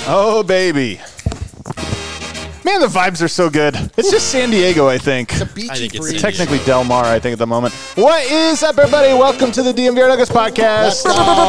Oh, baby. Man, the vibes are so good. It's just San Diego, I think. It's a beachy breeze. Technically Del Mar, I think, at the moment. What is up, everybody? Welcome to the DMVR Nuggets podcast.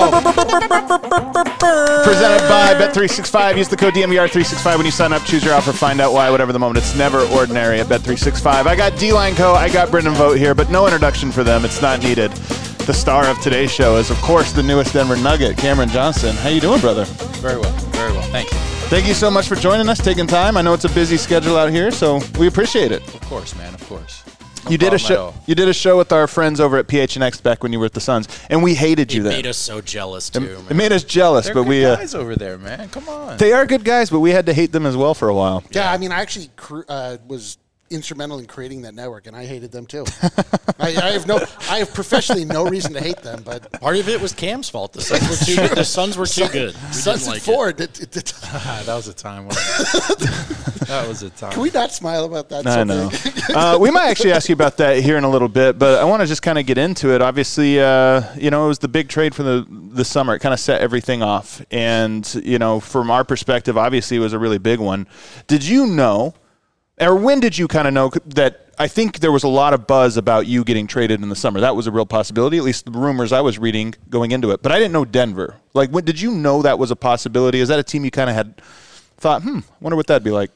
Presented by Bet365. Use the code DMVR365 when you sign up. Choose your offer. Find out why. Whatever the moment. It's never ordinary at Bet365. I got D-Line Co. I got Brendan Vogt here, but no introduction for them. It's not needed. The star of today's show is, of course, the newest Denver Nugget, Cameron Johnson. How you doing, brother? Very well. Very well. Thank you. Thank you so much for joining us, taking time. I know it's a busy schedule out here, so we appreciate it. Of course, man. Of course. No You did a show. You did a show with our friends over at PHNX back when you were at the Suns, and we hated you It then. made us so jealous too. It made us jealous, They're but good we guys over there, man. Come on. they are good guys, but we had to hate them as well for a while. Yeah, I mean, I actually was instrumental in creating that network, and I hated them too. I have professionally no reason to hate them, but Part of it was Cam's fault. The Suns were too good. We Suns didn't and like Ford. That was a time. That was a time. Can we not smile about that? I know. We might actually ask you about that here in a little bit, but I want to just kind of get into it. Obviously, it was the big trade for the summer. It kind of set everything off, and from our perspective, obviously, it was a really big one. Did you know? Or when did you kind of know that? I think there was a lot of buzz about you getting traded in the summer. That was a real possibility, at least the rumors I was reading going into it. But I didn't know Denver. Like, when did you know that was a possibility? Is that a team you kind of had thought, wonder what that'd be like?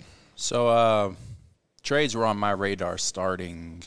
So trades were on my radar starting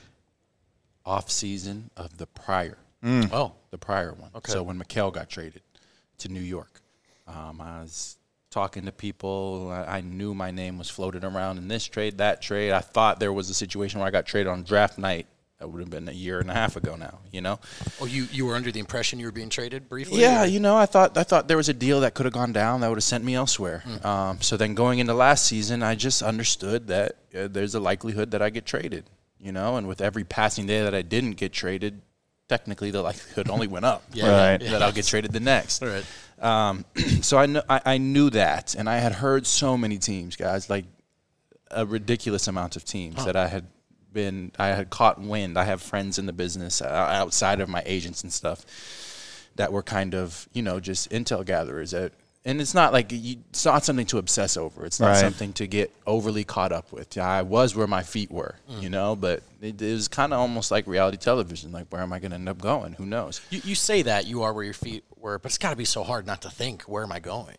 off season of the prior. Oh, The prior one. Okay. So when Mikal got traded to New York, I was talking to people. I knew my name was floated around in this trade, that trade. I thought there was a situation where I got traded on draft night. That would have been a year and a half ago now, Oh, you were under the impression you were being traded briefly? Yeah, or? I thought there was a deal that could have gone down that would have sent me elsewhere. So then going into last season, I just understood that there's a likelihood that I get traded, and with every passing day that I didn't get traded, technically the likelihood only went up. Right. That I'll get traded the next. All right. So I knew that, and I had heard so many teams, guys, like a ridiculous amount of teams that I had caught wind. I have friends in the business outside of my agents and stuff that were kind of, just intel gatherers. And it's not like it's not something to obsess over. It's not Right. something to get overly caught up with. I was where my feet were, but it was kind of almost like reality television. Like, where am I going to end up going? Who knows? You say that you are where your feet were, but it's got to be so hard not to think, where am I going?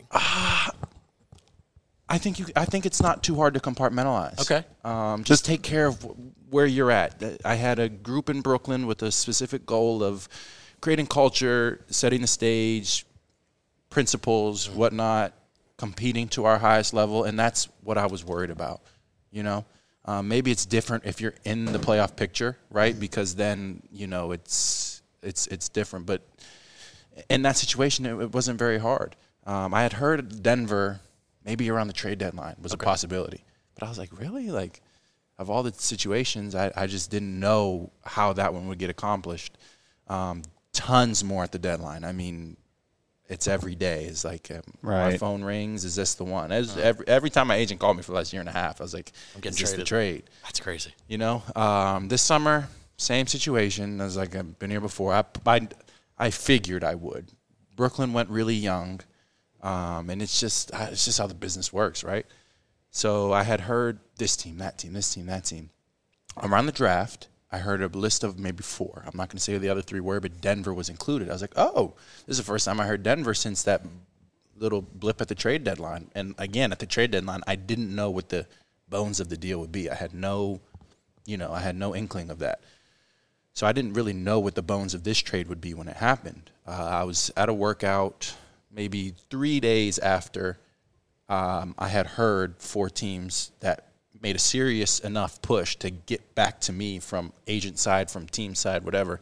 I think it's not too hard to compartmentalize. Okay. Just take care of where you're at. I had a group in Brooklyn with a specific goal of creating culture, setting the stage, principles, whatnot, competing to our highest level, and that's what I was worried about. Maybe it's different if you're in the playoff picture, right? Because then it's different. But in that situation, it wasn't very hard. I had heard Denver maybe around the trade deadline was a possibility, but I was like, really? Like, of all the situations, I just didn't know how that one would get accomplished. Tons more at the deadline. I mean, it's every day. It's like my Right. phone rings. Is this the one? Every time my agent called me for the last year and a half, I was like, I'm getting is this the traded. trade? That's crazy. This summer, same situation. I was like, I've been here before. I figured I would. Brooklyn went really young, and it's just how the business works, right? So I had heard this team, that team, this team, that team. Around the draft, I heard a list of maybe 4. I'm not going to say who the other 3 were, but Denver was included. I was like, oh, this is the first time I heard Denver since that little blip at the trade deadline. And again, at the trade deadline, I didn't know what the bones of the deal would be. I had no inkling of that. So I didn't really know what the bones of this trade would be when it happened. I was at a workout maybe 3 days after I had heard 4 teams that made a serious enough push to get back to me from agent side, from team side, whatever.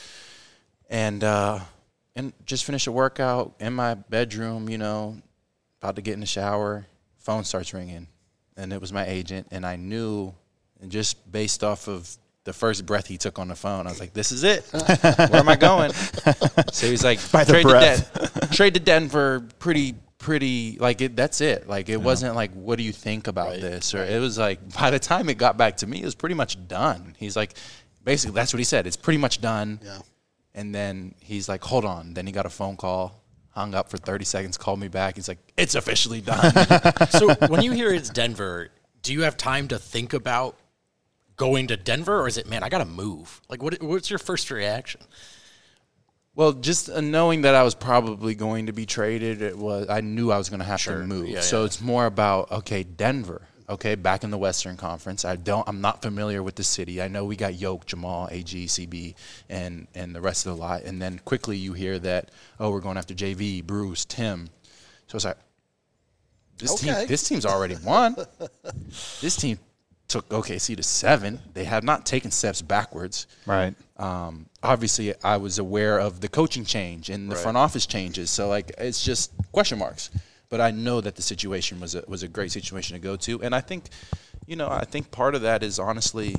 And just finished a workout in my bedroom, about to get in the shower. Phone starts ringing, and it was my agent. And I knew, and just based off of the first breath he took on the phone, I was like, this is it. Where am I going? So he's like, By the breath. Trade to Denver, pretty like it. That's it. Like, it wasn't like, what do you think about this? Or it was like, by the time it got back to me, it was pretty much done. He's like, basically, that's what he said. It's pretty much done. Yeah. And then he's like, hold on. Then he got a phone call hung up for 30 seconds, called me back. He's like, it's officially done. So when you hear it's Denver, do you have time to think about going to Denver, or is it, man, I got to move? Like, what's your first reaction? Well, just knowing that I was probably going to be traded, I knew I was going to have to move. Yeah, so it's more about, okay, Denver. Okay, back in the Western Conference. I'm not familiar with the city. I know we got Yoke, Jamal, AG, CB, and the rest of the lot. And then quickly you hear that, we're going after JV, Bruce, Tim. So it's like, this team's already won. This team took OKC to 7. They have not taken steps backwards. Right. Obviously, I was aware of the coaching change and the front office changes. So, like, it's just question marks. But I know that the situation was a great situation to go to, and I think, I think part of that is honestly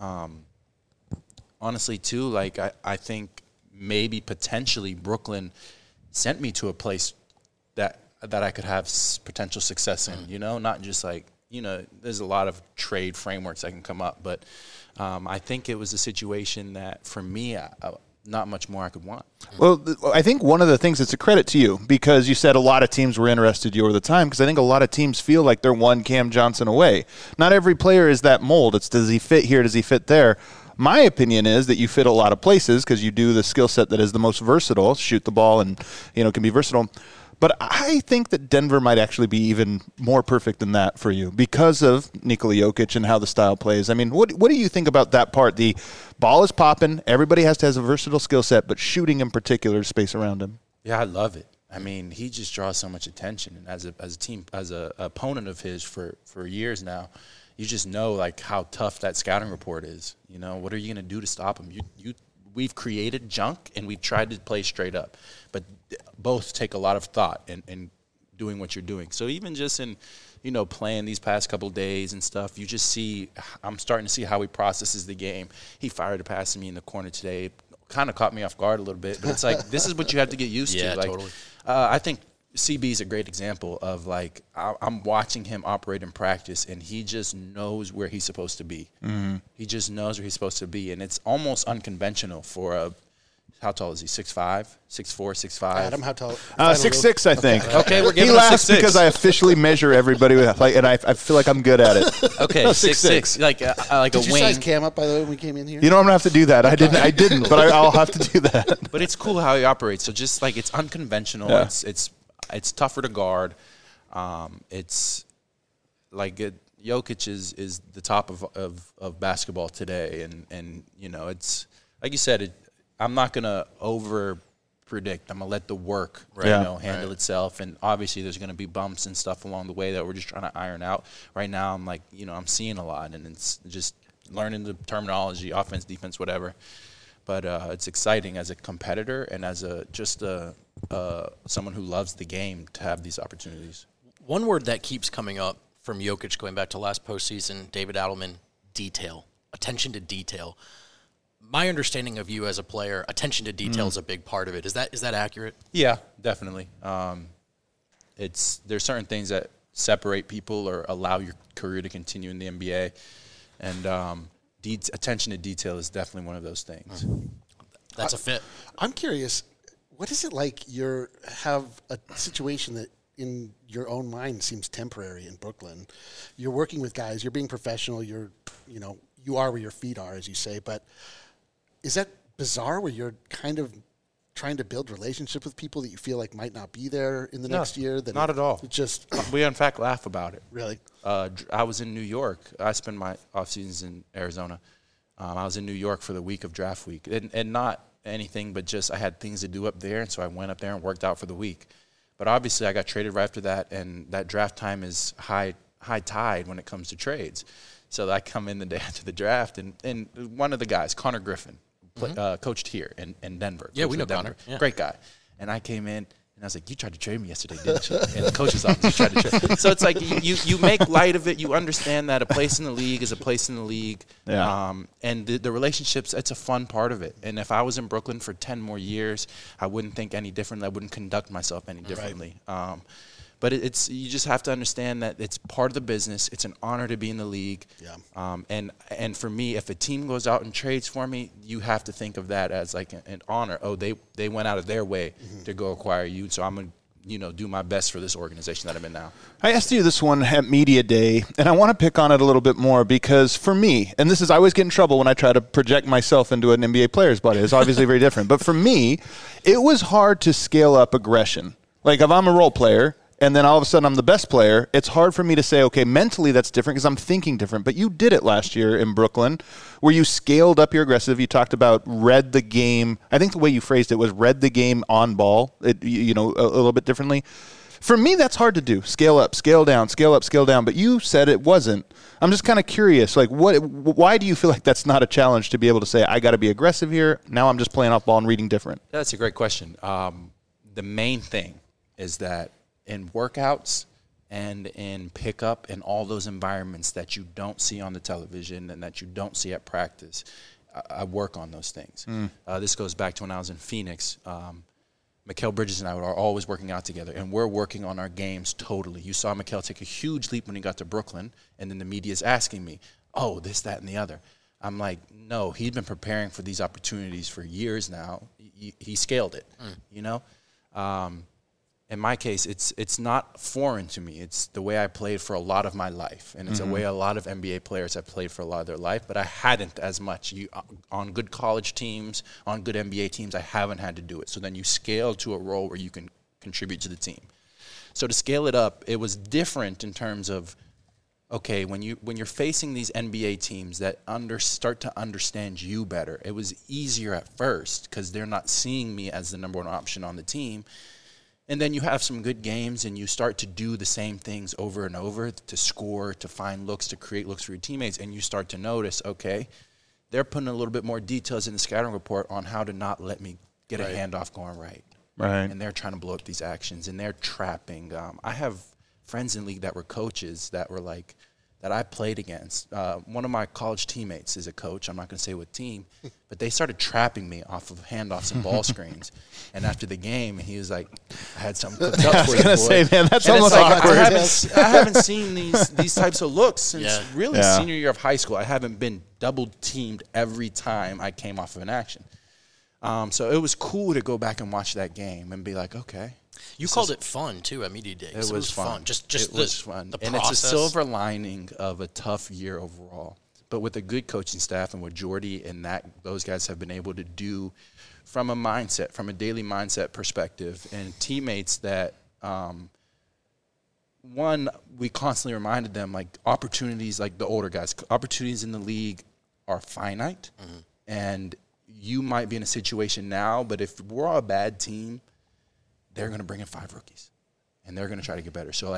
too. Like I think maybe potentially Brooklyn sent me to a place that I could have potential success in. Not just like there's a lot of trade frameworks that can come up, but I think it was a situation that for me. Not much more I could want. Well, I think one of the things that's a credit to you, because you said a lot of teams were interested in you over the time, because I think a lot of teams feel like they're one Cam Johnson away. Not every player is that mold. It's does he fit here, does he fit there? My opinion is that you fit a lot of places because you do the skill set that is the most versatile, shoot the ball and, can be versatile. But I think that Denver might actually be even more perfect than that for you because of Nikola Jokic and how the style plays. I mean, what do you think about that part? The ball is popping. Everybody has to have a versatile skill set, but shooting in particular, space around him. Yeah, I love it. I mean, he just draws so much attention. And as a team, as a opponent of his for years now, you just know, like, how tough that scouting report is. What are you going to do to stop him? We've created junk, and we've tried to play straight up. But both take a lot of thought in doing what you're doing. So even just in, playing these past couple of days and stuff, you just see – I'm starting to see how he processes the game. He fired a pass to me in the corner today. Kind of caught me off guard a little bit. But it's like this is what you have to get used to. Yeah, like, totally. I think CB is a great example of, like, I'm watching him operate in practice, and he just knows where he's supposed to be. Mm-hmm. He just knows where he's supposed to be, and it's almost unconventional for how tall is he? 6'5", 6'4", 6'5"? Adam, how tall? 6'6", I think. Okay, we're giving he laughs 6'6". because I officially measure everybody with, and I feel like I'm good at it. Okay, 6'6", like Did a wing. you size Cam up, by the way, when we came in here? I'm gonna have to do that. I didn't, but I'll have to do that. But it's cool how he operates. So just like it's unconventional. Yeah. It's tougher to guard. It's like Jokic is the top of basketball today, and it's like you said. I'm not gonna over predict. I'm gonna let the work handle itself, and obviously there's gonna be bumps and stuff along the way that we're just trying to iron out. Right now, I'm like I'm seeing a lot, and it's just learning the terminology, offense, defense, whatever. But it's exciting as a competitor and as someone who loves the game to have these opportunities. One word that keeps coming up from Jokic going back to last postseason, David Adelman, detail, attention to detail. My understanding of you as a player, attention to detail is a big part of it. Is that accurate? Yeah, definitely. There's certain things that separate people or allow your career to continue in the NBA, and attention to detail is definitely one of those things. That's a fit. I'm curious, what is it like you have a situation that in your own mind seems temporary in Brooklyn? You're working with guys, you're being professional, you are where your feet are, as you say, but is that bizarre where you're kind of trying to build relationships with people that you feel like might not be there in the next year? Not at all. We, in fact, laugh about it. Really? I was in New York. I spend my off seasons in Arizona. I was in New York for the week of draft week, and not anything, but just I had things to do up there, and so I went up there and worked out for the week. But obviously, I got traded right after that, and that draft time is high tide when it comes to trades. So I come in the day after the draft, and one of the guys, Connor Griffin, coached here in Denver. Yeah, we know Denver. Connor. Yeah. Great guy. And I came in, and I was like, you tried to trade me yesterday, didn't you? And the coach's office tried to trade. So it's like you make light of it. You understand that a place in the league is a place in the league. Yeah. And the relationships, it's a fun part of it. And if I was in Brooklyn for 10 more years, I wouldn't think any differently. I wouldn't conduct myself any differently. But it's you just have to understand that it's part of the business. It's an honor to be in the league. Yeah. And for me, if a team goes out and trades for me, you have to think of that as like an honor. Oh, they went out of their way to go acquire you, so I'm going to do my best for this organization that I'm in now. I asked you this one at Media Day, and I want to pick on it a little bit more because for me, and this is, I always get in trouble when I try to project myself into an NBA player's body. It's obviously very different. But for me, it was hard to scale up aggression. Like if I'm a role player, and then all of a sudden I'm the best player, it's hard for me to say, okay, mentally that's different because I'm thinking different. But you did it last year in Brooklyn where you scaled up your aggressive. You talked about read the game. I think the way you phrased it was read the game on ball, a little bit differently. For me, that's hard to do. Scale up, scale down, scale up, scale down. But you said it wasn't. I'm just kind of curious, like, why do you feel like that's not a challenge to be able to say, I got to be aggressive here. Now I'm just playing off ball and reading different? That's a great question. The main thing is that in workouts and in pickup and all those environments that you don't see on the television and that you don't see at practice, I work on those things. This goes back to when I was in Phoenix. Mikal Bridges and I are always working out together, and we're working on our games totally. You saw Mikal take a huge leap when he got to Brooklyn, and then the media is asking me, oh, this, that, and the other. I'm like, no, he's been preparing for these opportunities for years now. He scaled it, In my case, it's not foreign to me. It's the way I played for a lot of my life, and it's a way a lot of NBA players have played for a lot of their life, but I hadn't as much. On good college teams, on good NBA teams, I haven't had to do it. So then you scale to a role where you can contribute to the team. So to scale it up, it was different in terms of, okay, when you're facing these NBA teams that start to understand you better, it was easier at first because they're not seeing me as the number one option on the team. And then you have some good games and you start to do the same things over and over to score, to find looks, to create looks for your teammates. And you start to notice, okay, they're putting a little bit more details in the scouting report on how to not let me get a handoff going right. Right. And they're trying to blow up these actions and they're trapping. I have friends in the league that were coaches that were like, that I played against. One of my college teammates is a coach. I'm not going to say what team, but they started trapping me off of handoffs and ball screens. And after the game, he was like, I had something cooked up for you, boy. I was going to say, man, that's almost awkward. I haven't seen these types of looks since really senior year of high school. I haven't been double teamed every time I came off of an action. So it was cool to go back and watch that game and be like, okay. You called it fun, too, at Media Day. It was fun. It was fun. The and process. It's a silver lining of a tough year overall. But with a good coaching staff and what Jordy and those guys have been able to do from a mindset, from a daily mindset perspective, and teammates that, we constantly reminded them, like, opportunities, like the older guys, opportunities in the league are finite. And you might be in a situation now, but if we're all a bad team, they're going to bring in 5 rookies, and they're going to try to get better. So,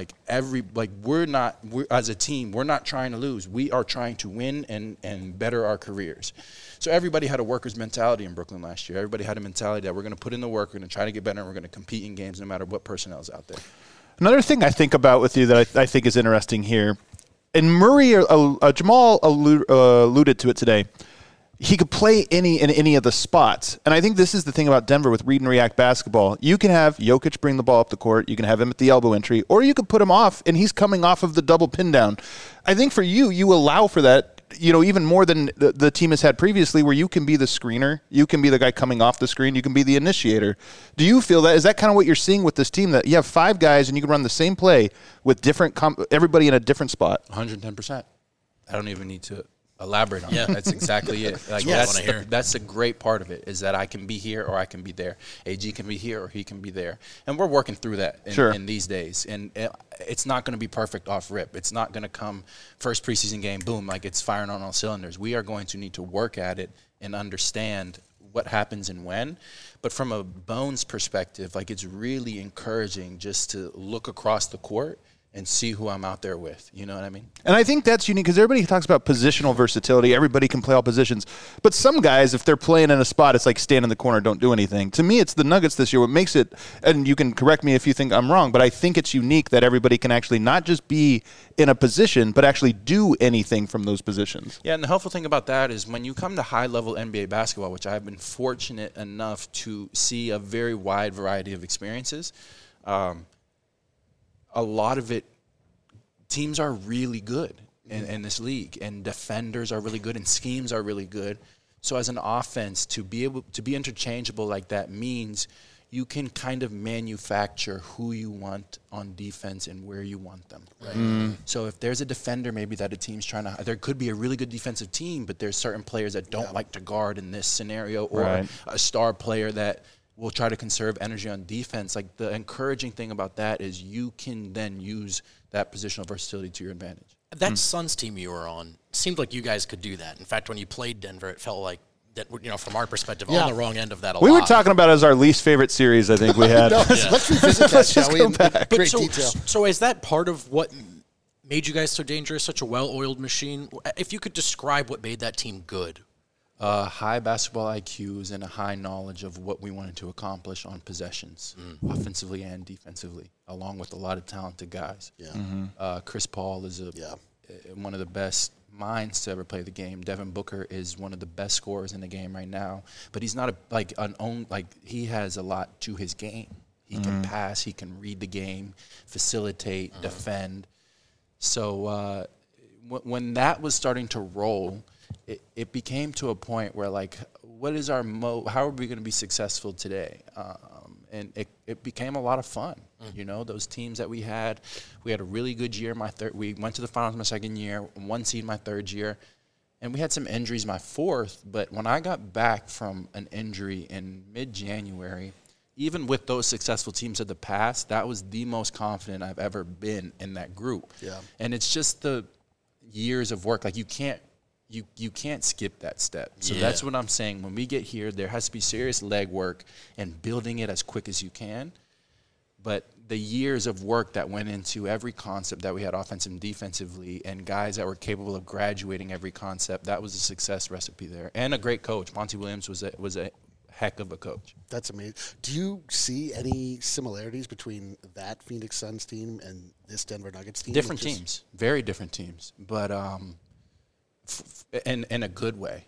we're as a team, we're not trying to lose. We are trying to win and better our careers. So everybody had a worker's mentality in Brooklyn last year. Everybody had a mentality that we're going to put in the work, we're going to try to get better, and we're going to compete in games no matter what personnel is out there. Another thing I think about with you that I think is interesting here, and Murray, Jamal alluded to it today, he could play in any of the spots. And I think this is the thing about Denver with read and react basketball. You can have Jokic bring the ball up the court. You can have him at the elbow entry. Or you could put him off, and he's coming off of the double pin down. I think for you allow for that, even more than the team has had previously, where you can be the screener. You can be the guy coming off the screen. You can be the initiator. Do you feel that? Is that kind of what you're seeing with this team, that you have 5 guys and you can run the same play with everybody in a different spot? 110%. I don't even need to elaborate on that. That's exactly it. That's the great part of it, is that I can be here or I can be there. AG can be here or he can be there. And we're working through that in these days. And it's not going to be perfect off rip. It's not going to come first preseason game, boom, like it's firing on all cylinders. We are going to need to work at it and understand what happens and when. But from a Bones perspective, it's really encouraging just to look across the court and see who I'm out there with. You know what I mean? And I think that's unique because everybody talks about positional versatility. Everybody can play all positions. But some guys, if they're playing in a spot, it's like stand in the corner, don't do anything. To me, it's the Nuggets this year. What makes it, and you can correct me if you think I'm wrong, but I think it's unique that everybody can actually not just be in a position, but actually do anything from those positions. Yeah, and the helpful thing about that is when you come to high-level NBA basketball, which I've been fortunate enough to see a very wide variety of experiences, a lot of it, teams are really good in this league, and defenders are really good, and schemes are really good. So as an offense, to be able to be interchangeable like that means you can kind of manufacture who you want on defense and where you want them. Right? So if there's a defender maybe that a team's trying to – there could be a really good defensive team, but there's certain players that don't like to guard in this scenario, or a star player that will try to conserve energy on defense. Like, the encouraging thing about that is you can then use that positional versatility to your advantage. That Suns team you were on seemed like you guys could do that. In fact, when you played Denver, it felt like that, from our perspective, on the wrong end of that a lot. We were talking about it as our least favorite series, I think we had. Let's revisit that, shall we, in great so, detail. So is that part of what made you guys so dangerous, such a well-oiled machine? If you could describe what made that team good. High basketball IQs and a high knowledge of what we wanted to accomplish on possessions, offensively and defensively, along with a lot of talented guys. Yeah. Chris Paul is one of the best minds to ever play the game. Devin Booker is one of the best scorers in the game right now, but he's not he has a lot to his game. He can pass, he can read the game, facilitate, defend. So when that was starting to roll, it became to a point where, like, what is our how are we going to be successful today? And it became a lot of fun. Those teams that we had a really good year. We went to the finals my second year, 1 seed my third year, and we had some injuries my fourth. But when I got back from an injury in mid-January, even with those successful teams of the past, that was the most confident I've ever been in that group. Yeah. And it's just the years of work. Like, you can't skip that step. So that's what I'm saying. When we get here, there has to be serious leg work and building it as quick as you can. But the years of work that went into every concept that we had offensively and defensively, and guys that were capable of graduating every concept, that was a success recipe there. And a great coach. Monty Williams was a heck of a coach. That's amazing. Do you see any similarities between that Phoenix Suns team and this Denver Nuggets team? Different teams. Very different teams. But in a good way,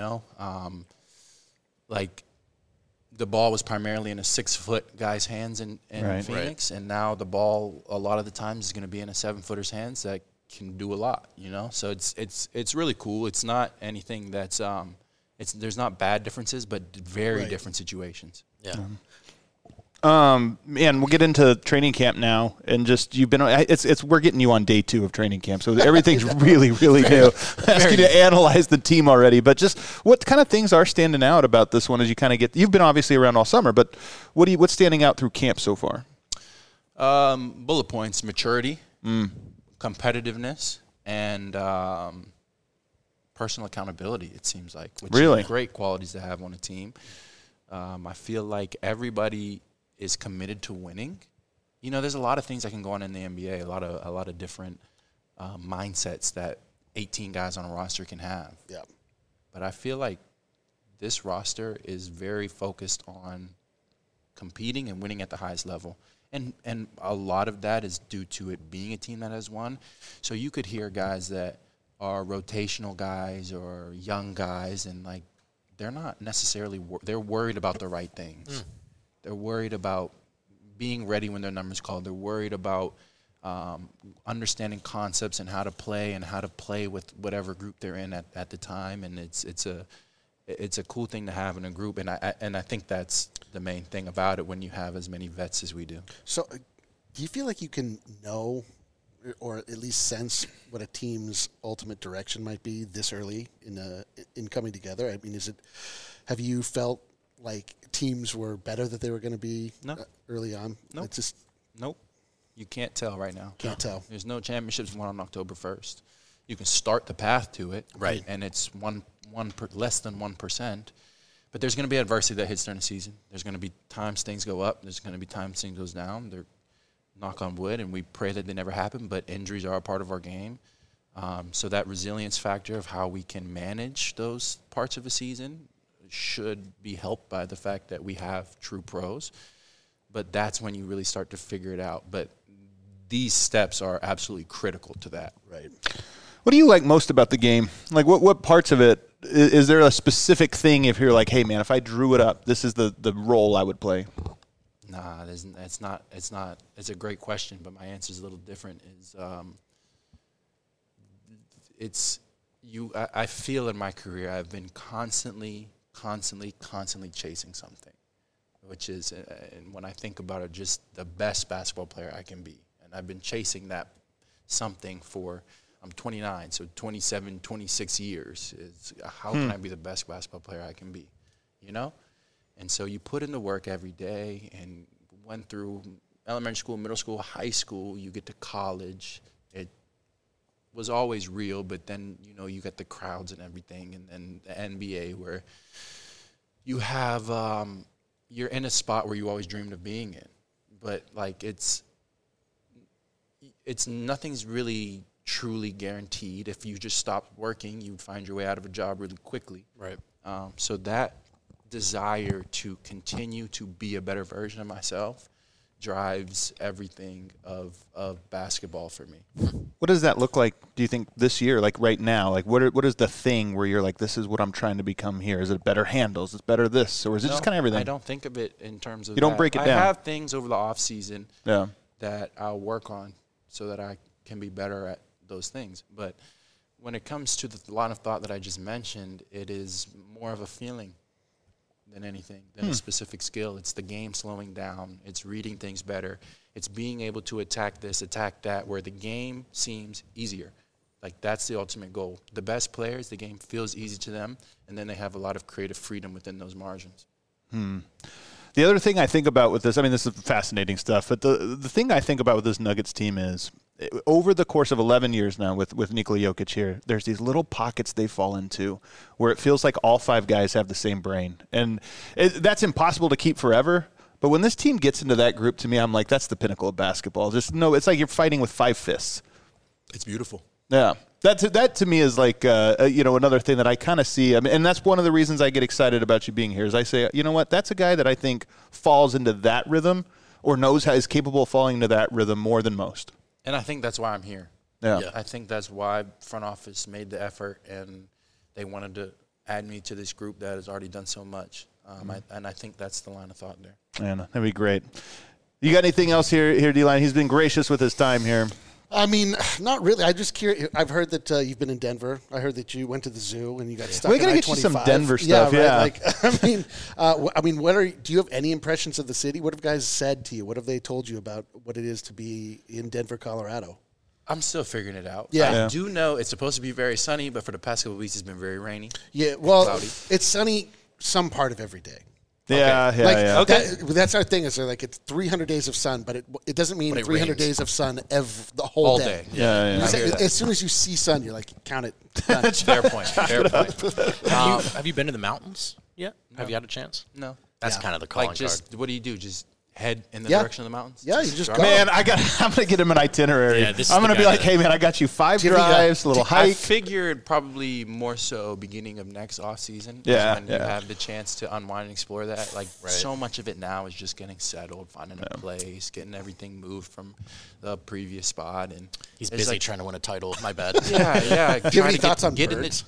like, the ball was primarily in a 6-foot guy's hands in Phoenix, and now the ball a lot of the times is going to be in a 7-footer's hands that can do a lot, So it's really cool. It's not anything that's there's not bad differences, but very different situations. Yeah. Man, we'll get into training camp now, and just we're getting you on day 2 of training camp, so everything's really, really new. I ask you to analyze the team already, but just what kind of things are standing out about this one as you kind of you've been obviously around all summer, but what's standing out through camp so far? Bullet points: maturity, competitiveness, and personal accountability. It seems like, which are great qualities to have on a team. I feel like everybody is committed to winning. There's a lot of things that can go on in the NBA, a lot of different mindsets that 18 guys on a roster can have. Yeah. But I feel like this roster is very focused on competing and winning at the highest level. And a lot of that is due to it being a team that has won. So you could hear guys that are rotational guys or young guys, and, like, they're not necessarily they're worried about the right things. They're worried about being ready when their number's called. They're worried about understanding concepts and how to play with whatever group they're in at the time. And it's a cool thing to have in a group. And I think that's the main thing about it when you have as many vets as we do. So do you feel like you can know or at least sense what a team's ultimate direction might be this early in coming together? I mean, have you felt like teams were better that they were going to be early on? Nope. Nope. You can't tell right now. Can't tell. There's no championships won on October 1st. You can start the path to it, right? And it's less than 1%. But there's going to be adversity that hits during the season. There's going to be times things go up. There's going to be times things goes down. They're knock on wood, and we pray that they never happen. But injuries are a part of our game. So that resilience factor of how we can manage those parts of a season should be helped by the fact that we have true pros. But that's when you really start to figure it out. But these steps are absolutely critical to that. Right. What do you like most about the game? Like, what parts of it? Is there a specific thing if you're like, hey, man, if I drew it up, this is the role I would play? Nah, it's not. It's a great question, but my answer is a little different. I feel in my career I've been constantly chasing something, which is, and when I think about it, just the best basketball player I can be. And I've been chasing that something for, I'm 29, so 27, 26 years. How can I be the best basketball player I can be, you know? And so you put in the work every day and went through elementary school, middle school, high school, you get to college. It was always real, but then, you know, you get the crowds and everything, and then the NBA where you have, you're in a spot where you always dreamed of being in. But, like, it's nothing's really truly guaranteed. If you just stopped working, you'd find your way out of a job really quickly. Right. So that desire to continue to be a better version of myself drives everything of basketball for me. What does that look like, do you think, this year, like right now? Like, what is the thing where you're like, this is what I'm trying to become here? Is it better handles? Is it better this? Or is it just kind of everything? I don't think of it in terms of You don't break it down. I have things over the off season Yeah. that I'll work on so that I can be better at those things. But when it comes to the line of thought that I just mentioned, it is more of a feeling than anything, than a specific skill. It's the game slowing down. It's reading things better. It's being able to attack this, attack that, where the game seems easier. Like, that's the ultimate goal. The best players, the game feels easy to them, and then they have a lot of creative freedom within those margins. The other thing I think about with this, I mean, this is fascinating stuff, but the thing I think about with this Nuggets team is, over the course of 11 years now with Nikola Jokic here, there's these little pockets they fall into where it feels like all five guys have the same brain. And that's impossible to keep forever. But when this team gets into that group, to me, I'm like, that's the pinnacle of basketball. It's like you're fighting with five fists. It's beautiful. Yeah. That to me is like, another thing that I kind of see. I mean, and that's one of the reasons I get excited about you being here is I say, you know what, that's a guy that I think falls into that rhythm or knows how is capable of falling into that rhythm more than most. And I think that's why I'm here. Yeah. I think that's why front office made the effort, and they wanted to add me to this group that has already done so much. And I think that's the line of thought there. Man, that'd be great. You got anything else here, D-Line? He's been gracious with his time here. I mean, not really. I'm just curious. I've heard that you've been in Denver. I heard that you went to the zoo and you got stuck. We're gonna get you some Denver stuff. Yeah. Right? Like, do you have any impressions of the city? What have guys said to you? What have they told you about what it is to be in Denver, Colorado? I'm still figuring it out. Yeah. I do know it's supposed to be very sunny, but for the past couple of weeks, it's been very rainy. Yeah. Well, cloudy. It's sunny some part of every day. Yeah, Okay. yeah. Okay. That's our thing. Is they're like it's 300 days of sun, but it doesn't mean But it 300 rains. days of sun the whole All day. day. Yeah. You say- I hear that. as soon as you see sun, you're like, count it. Done. Fair point. Fair point. Have you been to the mountains yet? Have you had a chance? No. That's Yeah. kind of the calling Like, just card. what do you do? Just head in the Yeah. direction of the mountains? Yeah, you just drive? go. Man, I'm gonna get him an itinerary. Yeah, this is I'm the gonna be guy like, that- hey man, I got you 5 Give me that. drives, a little I hike. figured probably more so beginning of next off season. Yeah, When you have the chance to unwind and explore that. Like, so much of it now is just getting settled, finding a place, getting everything moved from the previous spot. And He's it's busy like, trying to win a title. My bad. Yeah. Do you have any thoughts on get birds?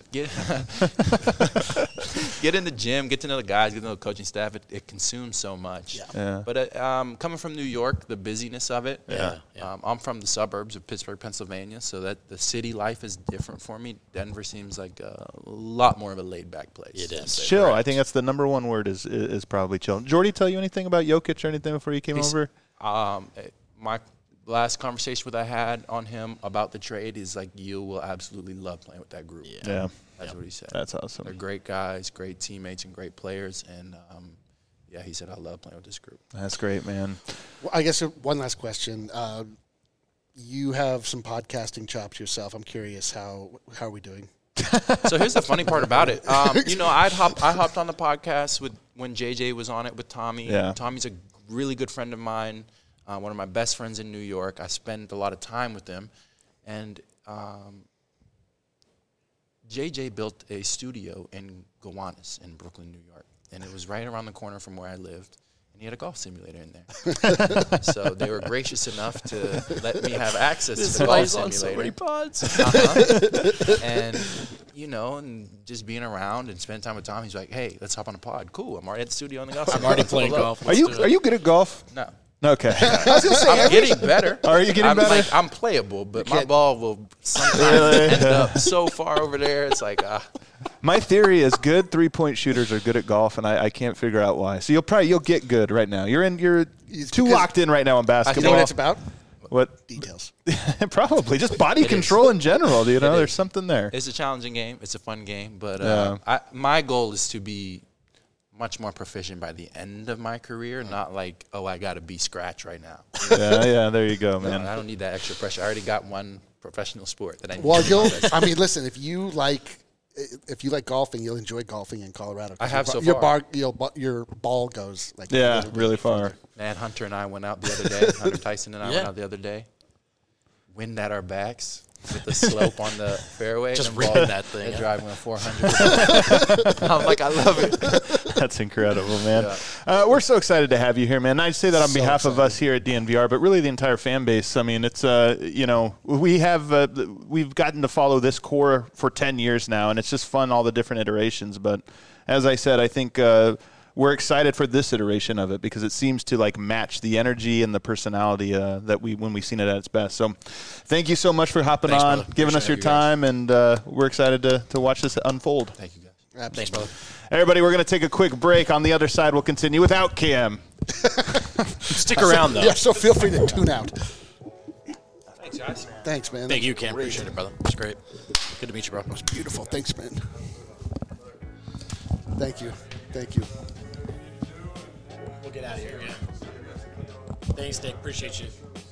get in the gym, get to know the guys, get to know the coaching staff. It consumes so much. Yeah. But coming from New York, the busyness of it. Yeah. I'm from the suburbs of Pittsburgh, Pennsylvania, so that the city life is different for me. Denver seems like a lot more of a laid-back place. It is. Chill. Correct. I think that's the number one word is probably chill. Jordy, tell you anything about Jokic or anything before you came over? My last conversation I had on him about the trade is like, you will absolutely love playing with that group. Yeah. That's what he said. That's awesome. They're great guys, great teammates, and great players. And, he said, I love playing with this group. That's great, man. Well, I guess one last question. You have some podcasting chops yourself. I'm curious, how are we doing? So here's the funny part about it. I hopped on the podcast when JJ was on it with Tommy. Yeah. Tommy's a really good friend of mine, one of my best friends in New York. I spend a lot of time with him. And JJ built a studio in Gowanus in Brooklyn, New York. And it was right around the corner from where I lived. And he had a golf simulator in there. So they were gracious enough to let me have access to the golf simulator. pods. And, and just being around and spending time with Tom, he's like, hey, let's hop on a pod. Cool. I'm already at the studio on the golf. I'm already playing golf. Are you good at golf? No. Okay. I was gonna say, I'm getting better. Are you getting better? I'm playable, but my ball will sometimes end up so far over there. It's like, My theory is good 3-point shooters are good at golf, and I can't figure out why. So you'll get good right now. You're too locked in right now on basketball. You know what it's about? What? Details. Probably just body control in general. There's something there. It's a challenging game. It's a fun game, but my goal is to be much more proficient by the end of my career, not like, I got to be scratch right now. Yeah, there you go, man. I don't need that extra pressure. I already got one professional sport that I need. Well, listen, if you like golfing, you'll enjoy golfing in Colorado. I have so far. Your ball goes like really far. Man, Hunter and I went out the other day. Hunter Tyson and I went out the other day. Wind at our backs with the slope on the fairway. Just ripping that thing. Driving a 400. I'm like, I love it. That's incredible, man. Yeah. We're so excited to have you here, man. I say that on behalf of us here at DNVR, but really the entire fan base. I mean, it's we've gotten to follow this core for 10 years now, and it's just fun, all the different iterations. But as I said, I think we're excited for this iteration of it because it seems to like match the energy and the personality that when we've seen it at its best. So thank you so much for hopping on, giving us your time, and we're excited to watch this unfold. Thank you, guys. Absolutely. Thanks, brother. Everybody, we're going to take a quick break. On the other side, we'll continue without Cam. Stick around, though. Yeah, so feel free to tune out. Thanks, guys. Thanks, man. Thank you, Cam. Appreciate it, brother. It's great. Good to meet you, bro. It was beautiful. Thanks, man. Thank you. We'll get out of here, yeah. Thanks, Dick. Appreciate you.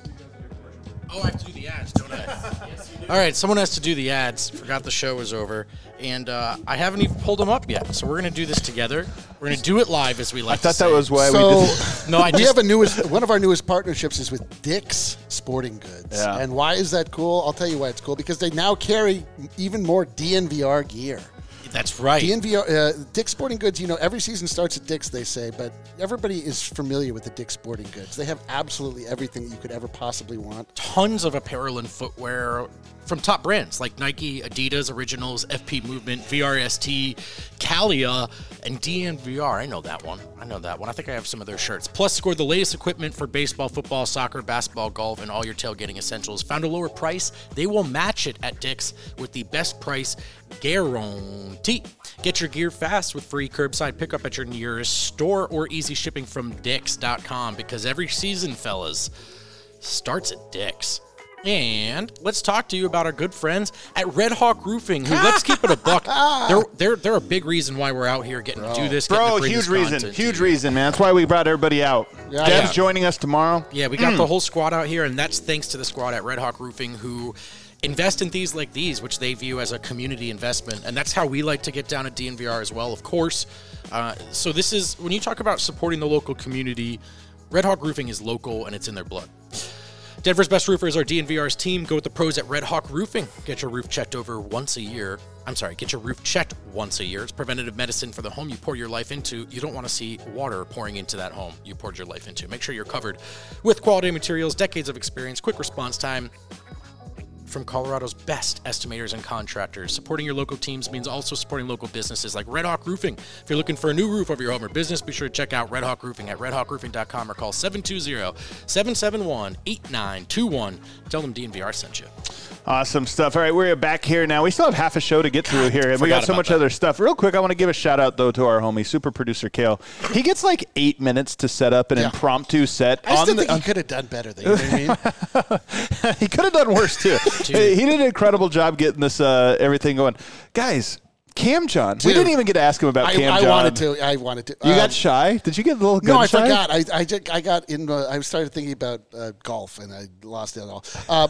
Oh, I have to do the ads, don't I? Yes, you do. All right, someone has to do the ads. Forgot the show was over. And I haven't even pulled them up yet. So we're going to do this together. We're going to do it live, as we like to say. I thought that was why we did. No, we have one of our newest partnerships is with Dick's Sporting Goods. Yeah. And why is that cool? I'll tell you why it's cool. Because they now carry even more DNVR gear. That's right. Dick's Sporting Goods, every season starts at Dick's, they say, but everybody is familiar with the Dick's Sporting Goods. They have absolutely everything that you could ever possibly want. Tons of apparel and footwear from top brands like Nike, Adidas, Originals, FP Movement, VRST, Calia, and DNVR. I know that one. I think I have some of their shirts. Plus, score the latest equipment for baseball, football, soccer, basketball, golf, and all your tailgating essentials. Found a lower price? They will match it at Dick's with the best price guarantee. Get your gear fast with free curbside pickup at your nearest store or easy shipping from Dicks.com because every season, fellas, starts at Dick's. And let's talk to you about our good friends at Red Hawk Roofing, who, let's keep it a buck, they're a big reason why we're out here getting to do this. Huge reason, man. That's why we brought everybody out. Deb's joining us tomorrow. Yeah, we got the whole squad out here, and that's thanks to the squad at Red Hawk Roofing who invest in things like these, which they view as a community investment. And that's how we like to get down at DNVR as well, of course. So this is, when you talk about supporting the local community, Red Hawk Roofing is local and it's in their blood. Denver's best roofers are DNVR's team. Go with the pros at Red Hawk Roofing. Get your roof checked once a year. Get your roof checked once a year. It's preventative medicine for the home you pour your life into. You don't want to see water pouring into that home you poured your life into. Make sure you're covered with quality materials, decades of experience, quick response time from Colorado's best estimators and contractors. Supporting your local teams means also supporting local businesses like Red Hawk Roofing. If you're looking for a new roof over your home or business, be sure to check out Red Hawk Roofing at redhawkroofing.com or call 720-771-8921. Tell them DNVR sent you. Awesome stuff. All right, we're back here now. We still have half a show to get through here, and we got so much other stuff. Real quick, I want to give a shout-out, though, to our homie, super producer Kale. He gets like 8 minutes to set up an impromptu set. I still think he could have done better, you know what I mean? He could have done worse, too. He did an incredible job getting this everything going. Guys, Cam John. We didn't even get to ask him about Cam John. I wanted to. You got shy? Did you get a little gun shy? No, I forgot. I got in. I started thinking about golf, and I lost it all.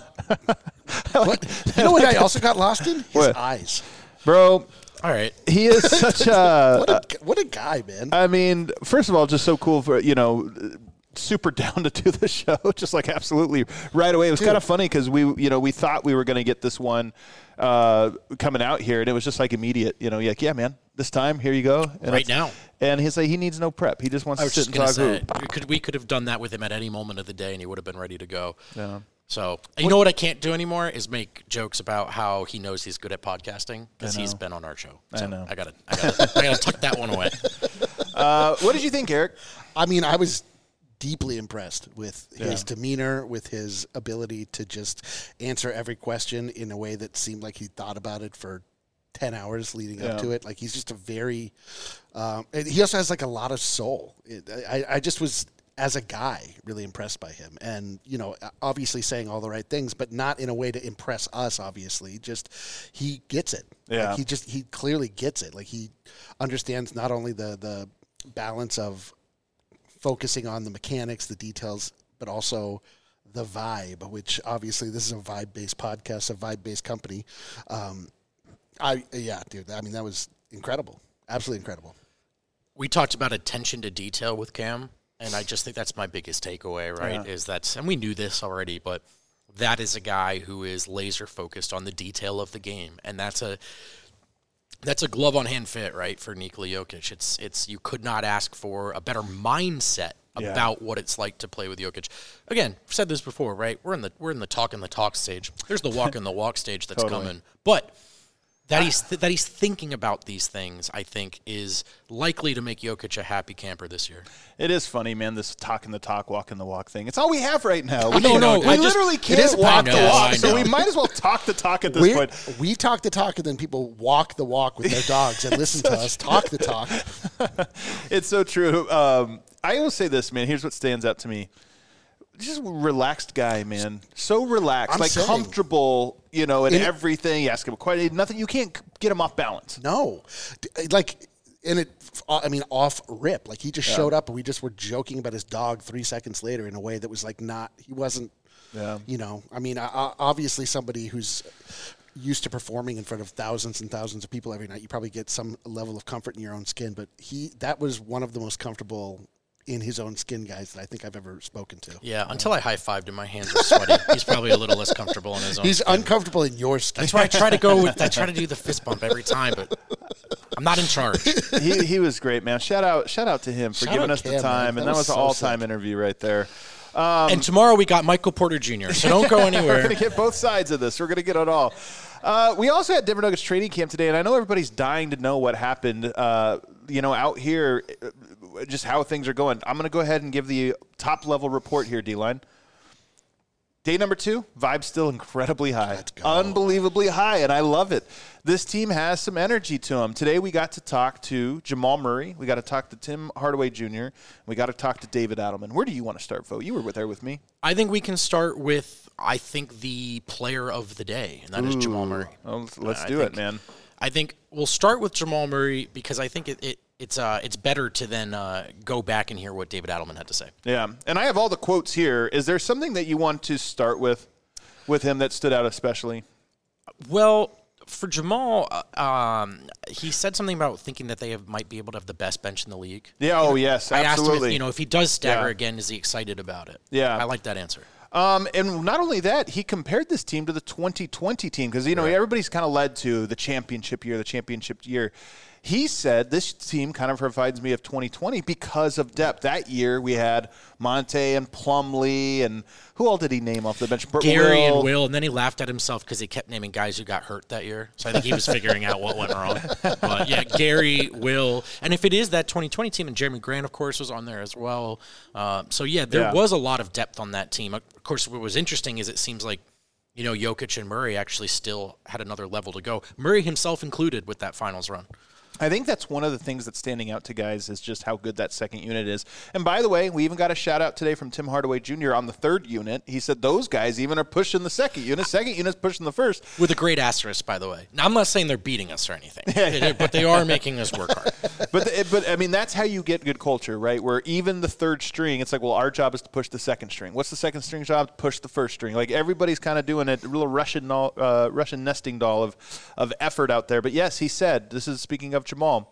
You know what I also got lost in? His eyes. Bro. All right. He is such a... what a guy, man. I mean, first of all, just so cool for, super down to do the show, just like absolutely right away. It was kind of funny because we thought we were going to get this one coming out here, and it was just like immediate. You're like, yeah, man, this time, here you go. And right now. And he's like, he needs no prep. He just wants to sit and talk. We could have done that with him at any moment of the day, and he would have been ready to go. Yeah. So, you know what I can't do anymore is make jokes about how he knows he's good at podcasting because he's been on our show. So I know. I gotta tuck that one away. What did you think, Eric? I mean, I was deeply impressed with his demeanor, with his ability to just answer every question in a way that seemed like he thought about it for 10 hours leading up to it. Like, he's just a very and he also has like a lot of soul. I just was, as a guy, really impressed by him, and obviously saying all the right things, but not in a way to impress us. Obviously, just he gets it. Yeah, like he clearly gets it. Like, he understands not only the balance of focusing on the mechanics, the details, but also the vibe. Which obviously, this is a vibe-based podcast, a vibe-based company. Dude. I mean, that was incredible. Absolutely incredible. We talked about attention to detail with Cam. And I just think that's my biggest takeaway, right? Yeah. Is that, and we knew this already, but that is a guy who is laser focused on the detail of the game, and that's a glove on hand fit, right, for Nikola Jokic. It's you could not ask for a better mindset about what it's like to play with Jokic. Again, I've said this before, right? We're in the talk stage. There's the walk and the walk stage that's coming, but. That he's thinking about these things, I think, is likely to make Jokic a happy camper this year. It is funny, man, this talking the talk, walking the walk thing. It's all we have right now. We No, we literally can't walk the walk, so we might as well talk the talk at this point. We talk the talk, and then people walk the walk with their dogs and listen to us talk the talk. It's so true. I will say this, man. Here's what stands out to me. Just a relaxed guy, man. So relaxed, comfortable, in everything. You ask him a question, nothing. You can't get him off balance. No, off rip. Like, he just showed up, and we just were joking about his dog 3 seconds later in a way that was like he wasn't. Yeah. I mean, obviously somebody who's used to performing in front of thousands and thousands of people every night, you probably get some level of comfort in your own skin. But that was one of the most comfortable in his own skin guys that I think I've ever spoken to. Yeah, until I high-fived him, my hands are sweaty. He's probably a little less comfortable in his own He's skin. uncomfortable in your skin. That's why I try to do the fist bump every time, but I'm not in charge. He was great, man. Shout out to him for giving us the time, man. And that was an all-time interview right there. And tomorrow we got Michael Porter Jr., so don't go anywhere. We're going to get both sides of this. We're going to get it all. We also had Denver Nuggets training camp today, and I know everybody's dying to know what happened, out here, just how things are going. I'm going to go ahead and give the top-level report here, D-Line. Day number 2, vibe still incredibly high. Unbelievably high, and I love it. This team has some energy to them. Today we got to talk to Jamal Murray. We got to talk to Tim Hardaway Jr. We got to talk to David Adelman. Where do you want to start, Fo? You were there with me. I think we can start with, the player of the day, and that is Jamal Murray. Well, let's do it, man. I think we'll start with Jamal Murray because I think it's better to then go back and hear what David Adelman had to say. Yeah, and I have all the quotes here. Is there something that you want to start with him that stood out especially? Well, for Jamal, he said something about thinking that they might be able to have the best bench in the league. Yeah, yes, absolutely. I asked him if he does stagger again, is he excited about it? Yeah. I like that answer. And not only that, he compared this team to the 2020 team because, everybody's kind of led to the championship year. He said this team kind of reminds me of 2020 because of depth. That year we had Monte and Plumlee, and who all did he name off the bench? Gary and Will, and then he laughed at himself because he kept naming guys who got hurt that year. So I think he was figuring out what went wrong. But yeah, Gary, Will, and if it is that 2020 team, and Jeremy Grant, of course, was on there as well. There was a lot of depth on that team. Of course, what was interesting is it seems like Jokic and Murray actually still had another level to go. Murray himself included with that finals run. I think that's one of the things that's standing out to guys is just how good that second unit is. And by the way, we even got a shout out today from Tim Hardaway Jr. on the third unit. He said those guys even are pushing the second unit. Second unit's pushing the first. With a great asterisk, by the way. Now, I'm not saying they're beating us or anything, but they are making us work hard. But I mean, that's how you get good culture, right? Where even the third string, it's like, well, our job is to push the second string. What's the second string job? Push the first string. Like everybody's kind of doing it, a little Russian nesting doll of effort out there. But yes, he said, this is speaking of Jamal,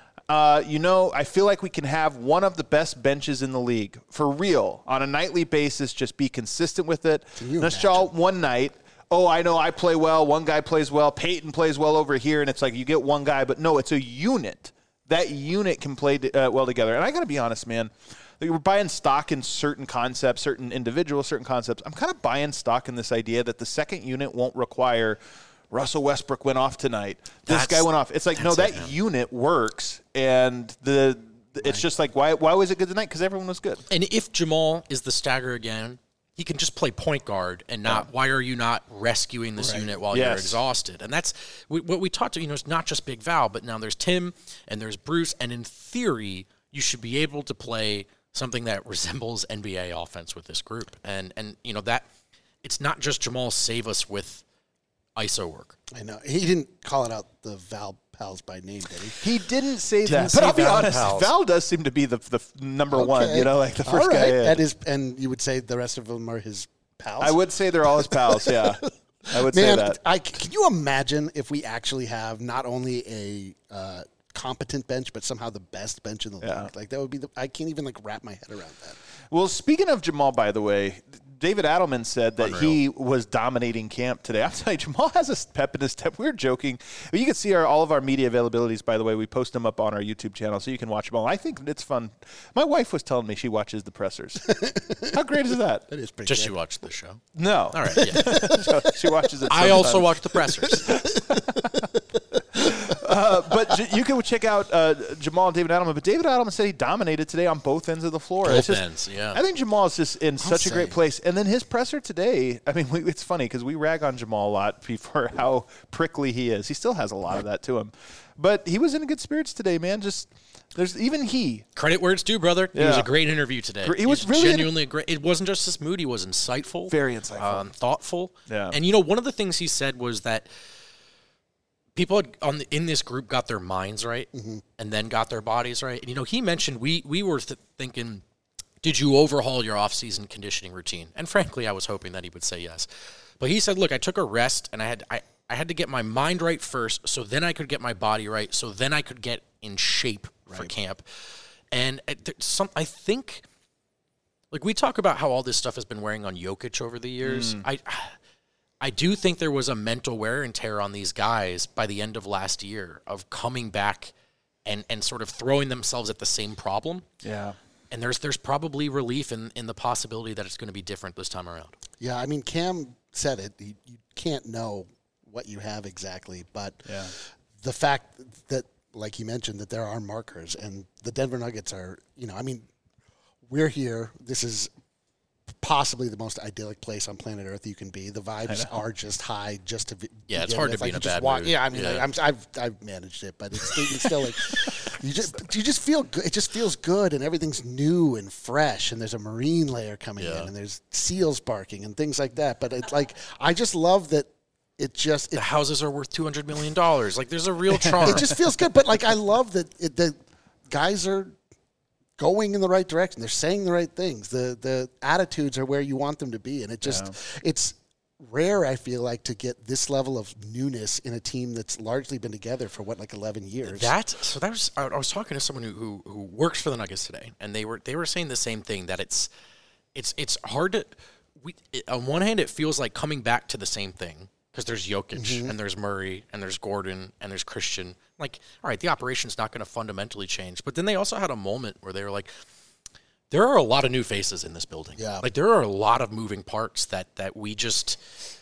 I feel like we can have one of the best benches in the league for real on a nightly basis. Just be consistent with it. Let's y'all one night. Oh, I know I play well. One guy plays well. Peyton plays well over here. And it's like you get one guy, but no, it's a unit. That unit can play well together. And I got to be honest, man. we're buying stock in certain concepts, certain individuals, certain concepts. I'm kind of buying stock in this idea that the second unit won't require Russell Westbrook went off tonight. This guy went off. It's like, no, that unit works, and it's just like, why was it good tonight? Because everyone was good. And if Jamal is the stagger again, he can just play point guard and not. Why are you not rescuing this unit while you're exhausted? And that's what we talked to. It's not just Big Val, but now there's Tim and there's Bruce. And in theory, you should be able to play something that resembles NBA offense with this group. And that it's not just Jamal save us with ISO work. I know he didn't call it out the Val pals by name, did he? He didn't say that. But I'll be honest, Val does seem to be the number one, like the first guy in. That is, and you would say the rest of them are his pals? I would say they're all his pals, yeah. I would say that. Can you imagine if we actually have not only a competent bench, but somehow the best bench in the league? Like, that would be I can't even, wrap my head around that. Well, speaking of Jamal, by the way, David Adelman said that he was dominating camp today. I'll tell you, Jamal has a pep in his step. We were joking. You can see all of our media availabilities, by the way. We post them up on our YouTube channel, so you can watch them all. I think it's fun. My wife was telling me she watches the pressers. How great is that? That is pretty Just good. you watch the show? No. All right, yeah. So she watches it I also watch the pressers. But you can check out Jamal and David Adelman. But David Adelman said he dominated today on both ends of the floor. Both ends, yeah. I think Jamal is just in such a great place. And then his presser today, I mean, it's funny because we rag on Jamal a lot for how prickly he is. He still has a lot of that to him. But he was in good spirits today, man. There's even he. Credit where it's due, brother. Yeah. It was a great interview today. He was really genuinely great. It wasn't just this mood. He was insightful. Very insightful. Thoughtful. Yeah. And, one of the things he said was that people in this group got their minds right and then got their bodies right. And, he mentioned we were thinking, did you overhaul your off-season conditioning routine? And frankly, I was hoping that he would say yes. But he said, look, I took a rest, and I had to get my mind right first, so then I could get my body right, so then I could get in shape for camp. And I think, we talk about how all this stuff has been wearing on Jokic over the years. I do think there was a mental wear and tear on these guys by the end of last year of coming back and sort of throwing themselves at the same problem. Yeah. And there's probably relief in the possibility that it's going to be different this time around. Yeah, I mean, Cam said it. You can't know what you have exactly, but the fact that, like he mentioned, that there are markers, and the Denver Nuggets are, we're here. This is possibly the most idyllic place on planet Earth you can be. The vibes are just high. It's hard to be in a bad mood. Yeah, I mean, I've managed it, but it's still like you just feel good. It just feels good, and everything's new and fresh. And there's a marine layer coming in, and there's seals barking and things like that. But it's like I just love that. The houses are worth $200 million. Like, there's a real charm. It just feels good. But I love that the guys are going in the right direction. They're saying the right things. The attitudes are where you want them to be. And it's rare, I feel like, to get this level of newness in a team that's largely been together for 11 years. I was talking to someone who works for the Nuggets today, and they were saying the same thing, that it's hard to on one hand it feels like coming back to the same thing, because there's Jokic and there's Murray and there's Gordon and there's Christian. Like, all right, the operation's not going to fundamentally change. But then they also had a moment where they were like, there are a lot of new faces in this building. Yeah. Like, there are a lot of moving parts that we just,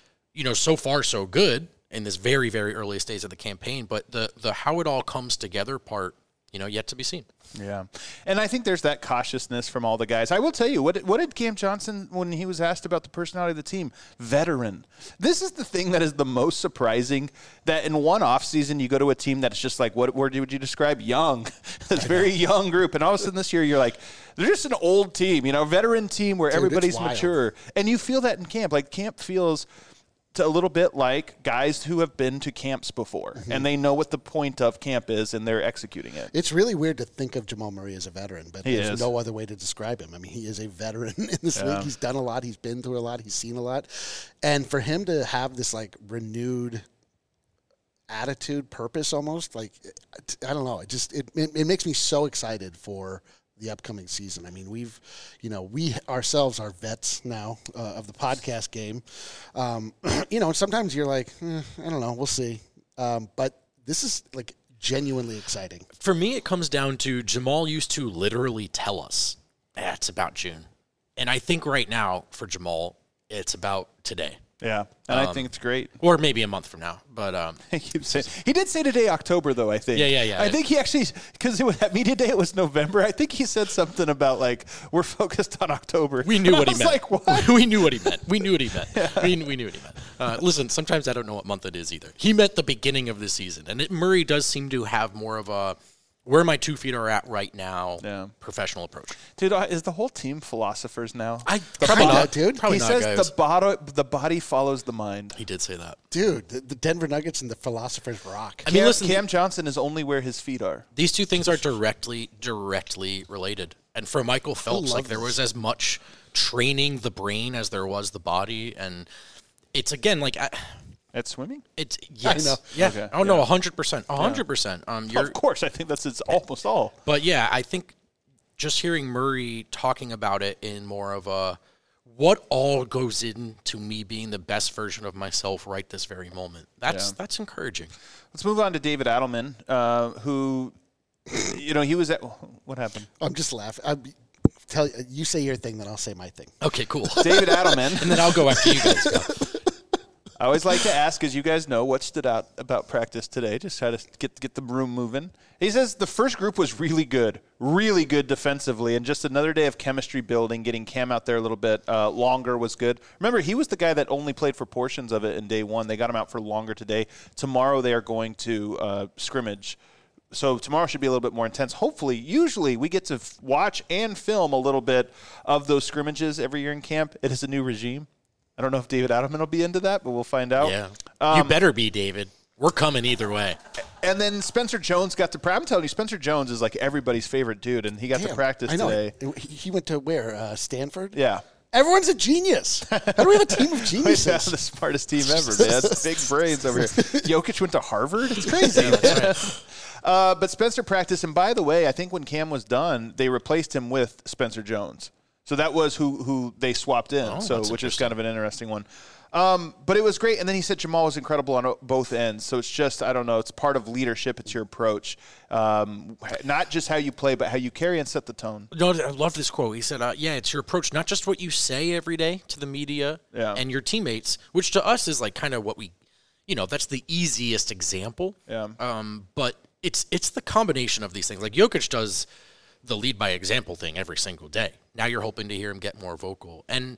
so far so good in this very, very early stage of the campaign. But the how it all comes together part, yet to be seen. Yeah. And I think there's that cautiousness from all the guys. I will tell you, what did Cam Johnson, when he was asked about the personality of the team? Veteran. This is the thing that is the most surprising, that in one offseason you go to a team that's just like, what word would you describe? Young. This very young group. And all of a sudden this year you're like, they're just an old team, veteran team where everybody's mature. And you feel that in camp. Like, camp feels a little bit like guys who have been to camps before, and they know what the point of camp is, and they're executing it. It's really weird to think of Jamal Murray as a veteran, but there's no other way to describe him. I mean, he is a veteran in this league. He's done a lot. He's been through a lot. He's seen a lot. And for him to have this, renewed attitude, purpose almost, I don't know. It makes me so excited for the upcoming season. I mean, we ourselves are vets now of the podcast game. And sometimes you're like, I don't know, we'll see. But this is genuinely exciting. For me, it comes down to Jamal used to literally tell us it's about June. And I think right now for Jamal, it's about today. Yeah, and I think it's great. Or maybe a month from now. But He did say today October, though, I think. Yeah. I think he actually, because at media day it was November, I think he said something about, like, we're focused on October. we knew what he I was meant. like, what? We knew what he meant. We knew what he meant. We knew what he meant. Listen, sometimes I don't know what month it is either. He meant the beginning of the season. And Murray does seem to have more of a where my 2 feet are at right now professional approach. Dude, is the whole team philosophers now? Probably not, dude. Probably He not, says guys. the body follows the mind. He did say that. Dude, the Denver Nuggets and the philosophers rock. I mean, listen, Cam Johnson is only where his feet are. these two things are directly related. And for Michael Phelps, like there was as much training the brain as there was the body. And it's, again, like... At swimming? It's yes, I know. yeah. Okay, Oh no, 100%, 100%. Of course, I think it's almost all. But yeah, I think just hearing Murray talking about it in more of a what all goes into me being the best version of myself right this very moment. That's encouraging. Let's move on to David Adelman, who, he was at what happened? I'm just laughing. You say your thing, then I'll say my thing. Okay, cool. David Adelman. And then I'll go after you guys go. I always like to ask, as you guys know, what stood out about practice today. Just try to get the room moving. He says the first group was really good defensively, and just another day of chemistry building, getting Cam out there a little bit longer was good. Remember, he was the guy that only played for portions of it in day one. They got him out for longer today. Tomorrow they are going to scrimmage. So tomorrow should be a little bit more intense. Hopefully, usually we get to watch and film a little bit of those scrimmages every year in camp. It is a new regime. I don't know if David Adelman will be into that, but we'll find out. Yeah, you better be, David. We're coming either way. And then Spencer Jones got to – I'm telling you, Spencer Jones is like everybody's favorite dude, and he got to practice today. He went to where? Stanford? Yeah. Everyone's a genius. How do we have a team of geniuses? Yeah, the smartest team ever, man. Big brains over here. Jokic went to Harvard? It's crazy. But Spencer practiced, and by the way, I think when Cam was done, they replaced him with Spencer Jones. So that was who they swapped in, which is kind of an interesting one. But it was great. And then he said Jamal was incredible on both ends. So it's just, I don't know, it's part of leadership. It's your approach. Not just how you play, but how you carry and set the tone. No, I love this quote. He said, it's your approach, not just what you say every day to the media and your teammates, which to us is like kind of what we, that's the easiest example. Yeah. But it's the combination of these things. Like Jokic does the lead by example thing every single day. Now you're hoping to hear him get more vocal. And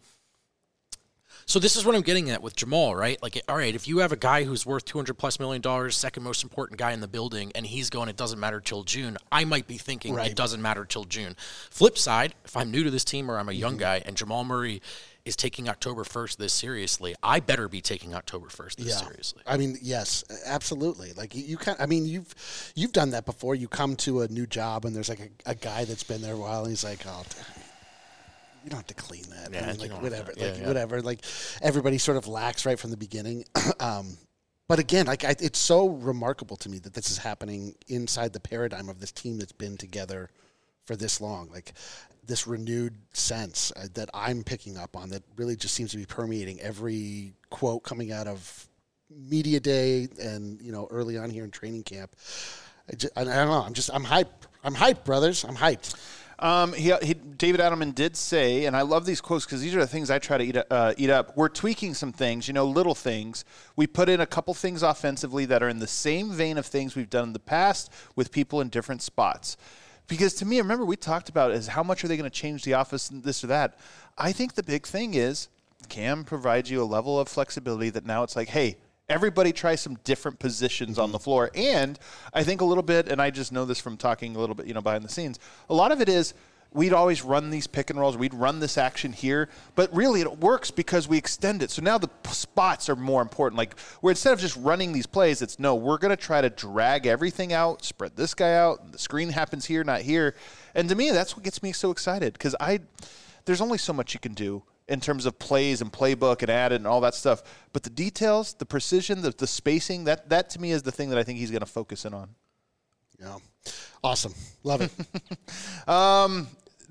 so this is what I'm getting at with Jamal, right? Like, all right, if you have a guy who's worth $200+ million, second most important guy in the building, and he's going, it doesn't matter till June, I might be thinking it doesn't matter till June. Flip side, if I'm new to this team or I'm a young guy and Jamal Murray is taking October 1st this seriously, I better be taking October 1st this seriously. I mean, yes, absolutely. Like you've done that before. You come to a new job and there's like a guy that's been there a while and he's like, oh, you don't have to clean that. Yeah, I mean, whatever. Whatever. Like everybody sort of lax right from the beginning. But again, it's so remarkable to me that this is happening inside the paradigm of this team that's been together for this long. Like this renewed sense that I'm picking up on that really just seems to be permeating every quote coming out of media day and, early on here in training camp. I don't know. I'm hyped. I'm hyped, brothers. I'm hyped. David Adelman did say, and I love these quotes because these are the things I try to eat up. We're tweaking some things, little things. We put in a couple things offensively that are in the same vein of things we've done in the past with people in different spots. Because to me, remember we talked about is how much are they going to change the offense and this or that. I think the big thing is Cam provides you a level of flexibility that now it's like, hey, everybody try some different positions on the floor. And I think a little bit, and I just know this from talking a little bit, behind the scenes, a lot of it is we'd always run these pick and rolls. We'd run this action here. But really it works because we extend it. So now the spots are more important. Like where instead of just running these plays, it's no, we're going to try to drag everything out, spread this guy out. The screen happens here, not here. And to me, that's what gets me so excited because there's only so much you can do in terms of plays and playbook and add it and all that stuff. But the details, the precision, the spacing, that to me is the thing that I think he's going to focus in on. Yeah. Awesome. Love it.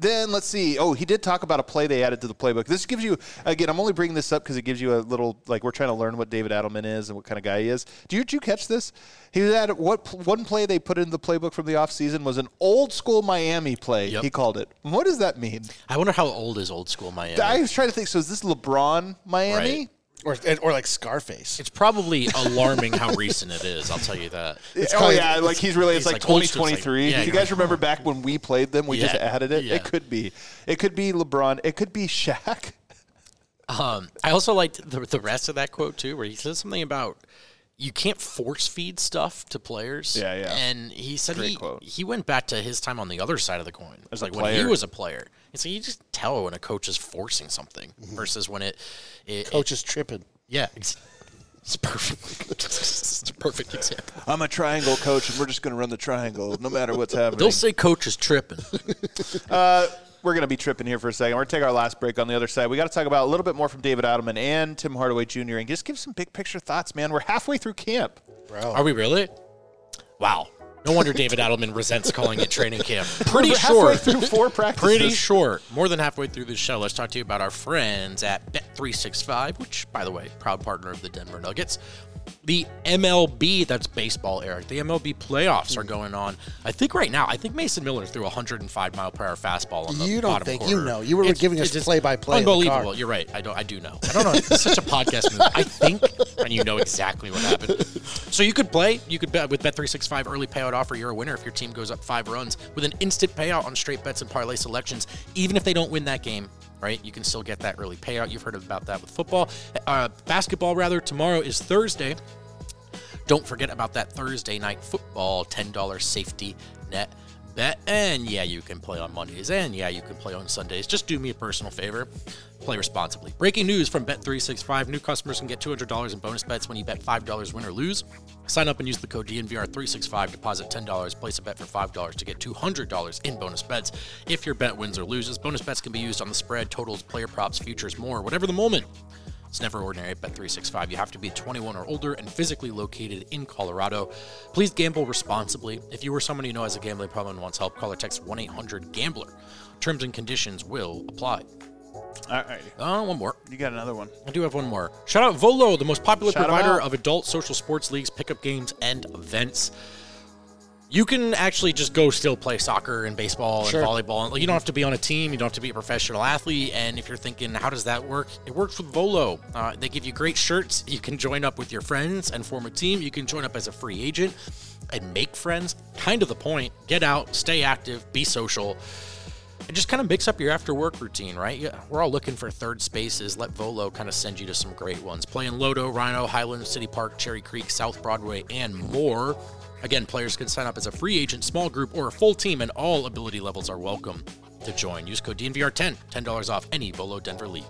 Then let's see. Oh, he did talk about a play they added to the playbook. This gives you, again, I'm only bringing this up because it gives you a little, like, we're trying to learn what David Adelman is and what kind of guy he is. Did you catch this? He had one play they put in the playbook from the offseason was an old school Miami play, he called it. What does that mean? I wonder how old is old school Miami? I was trying to think, so is this LeBron Miami? Right. Or like Scarface. It's probably alarming how recent it is. I'll tell you that. Like he's really, it's like old school. 2023. It's like, Do you guys remember back when we played them? We just added it. Yeah. It could be LeBron. It could be Shaq. I also liked the rest of that quote too, where he says something about you can't force feed stuff to players. Yeah. And he said quote. he went back to his time on the other side of the coin. As like a when he player. was a player. And so you just tell when a coach is forcing something versus when it Coach is tripping. Yeah, it's perfect. It's a perfect example. I'm a triangle coach, and we're just going to run the triangle no matter what's happening. They'll say coach is tripping. We're going to be tripping here for a second. We're going to take our last break on the other side. We got to talk about a little bit more from David Adelman and Tim Hardaway Jr. and just give some big picture thoughts, man. We're halfway through camp. Bro. Are we really? Wow. No wonder David Adelman resents calling it training camp. We're halfway through 4 practices. Pretty short. More than halfway through this show. Let's talk to you about our friends at Bet365, which, by the way, proud partner of the Denver Nuggets. The MLB, that's baseball, Eric. The MLB playoffs are going on. I think right now, Mason Miller threw a 105-mile-per-hour fastball on the You don't bottom think corner. you know. You were giving us just play-by-play in the Unbelievable. car. You're right. I do know. I don't know. It's such a podcast move. I think, and you know exactly what happened. So you could play. You could bet with Bet365 early payout offer. You're a winner if your team goes up 5 runs with an instant payout on straight bets and parlay selections. Even if they don't win that game, right? You can still get that early payout. You've heard about that with football. Basketball, rather. Tomorrow is Thursday. Don't forget about that Thursday night football $10 safety net bet. And yeah, you can play on Mondays. And yeah, you can play on Sundays. Just do me a personal favor. Play responsibly. Breaking news from Bet365. New customers can get $200 in bonus bets when you bet $5 win or lose. Sign up and use the code DNVR365. Deposit $10. Place a bet for $5 to get $200 in bonus bets. If your bet wins or loses, bonus bets can be used on the spread, totals, player props, futures, more, whatever the moment. It's never ordinary at Bet365. You have to be 21 or older and physically located in Colorado. Please gamble responsibly. If you or someone you know has a gambling problem and wants help, call or text 1-800-GAMBLER. Terms and conditions will apply. All right. One more. You got another one. I do have one more. Shout out Volo, the most popular Shout 'em provider out. of adult social sports leagues, pickup games, and events. You can actually just go still play soccer and baseball and volleyball. You don't have to be on a team. You don't have to be a professional athlete. And if you're thinking, how does that work? It works with Volo. They give you great shirts. You can join up with your friends and form a team. You can join up as a free agent and make friends. Kind of the point. Get out, stay active, be social. And just kind of mix up your after-work routine, right? Yeah, we're all looking for third spaces. Let Volo kind of send you to some great ones. Play in Lodo, Rhino, Highland, City Park, Cherry Creek, South Broadway, and more. Again, players can sign up as a free agent, small group, or a full team, and all ability levels are welcome to join. Use code DNVR10, $10 off any Volo Denver league.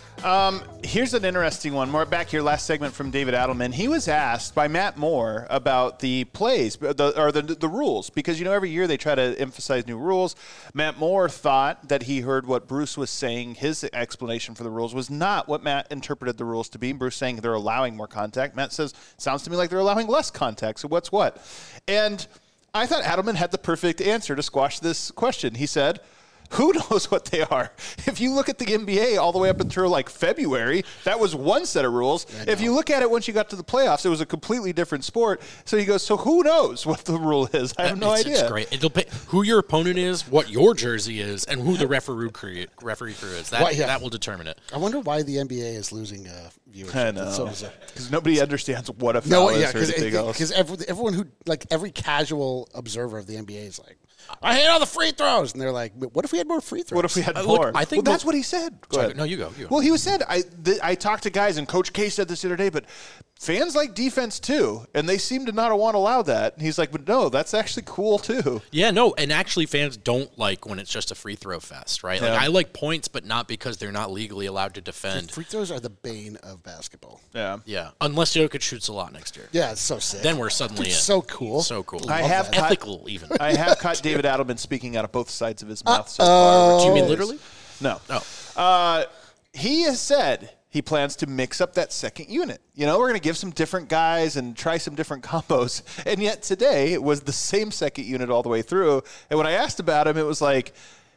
Here's an interesting one. More back here, last segment from David Adelman. He was asked by Matt Moore about the plays, the rules, because, every year they try to emphasize new rules. Matt Moore thought that he heard what Bruce was saying. His explanation for the rules was not what Matt interpreted the rules to be. Bruce saying they're allowing more contact. Matt says, sounds to me like they're allowing less contact. So what's what? And I thought Adelman had the perfect answer to squash this question. He said, who knows what they are? If you look at the NBA all the way up until like February, that was one set of rules. If you look at it once you got to the playoffs, it was a completely different sport. So he goes, so who knows what the rule is? I have no idea. It's great. It'll pay who your opponent is, what your jersey is, and who the referee crew is. That will determine it. I wonder why the NBA is losing viewership. I know. Because nobody understands what a foul is or anything else. Because everyone who, every casual observer of the NBA is like, I hate all the free throws. And they're like, what if we had more free throws? What if we had more? I think that's what he said. Go ahead. No, you go. Well, he said, I talked to guys, and Coach K said this the other day, but fans like defense too, and they seem to not want to allow that. And he's like, but no, that's actually cool too. Yeah, no, and actually fans don't like when it's just a free throw fest, right? Yeah. Like I like points, but not because they're not legally allowed to defend. Free throws are the bane of basketball. Yeah. Yeah, unless Jokic shoots a lot next year. Yeah, it's so sick. Then we're suddenly in. So cool. So cool. I have caught- ethical even. I have caught David Adelman speaking out of both sides of his mouth so far. Do you mean literally? No. Oh. He has said he plans to mix up that second unit. We're going to give some different guys and try some different combos. And yet today it was the same second unit all the way through. And when I asked about him, it was like,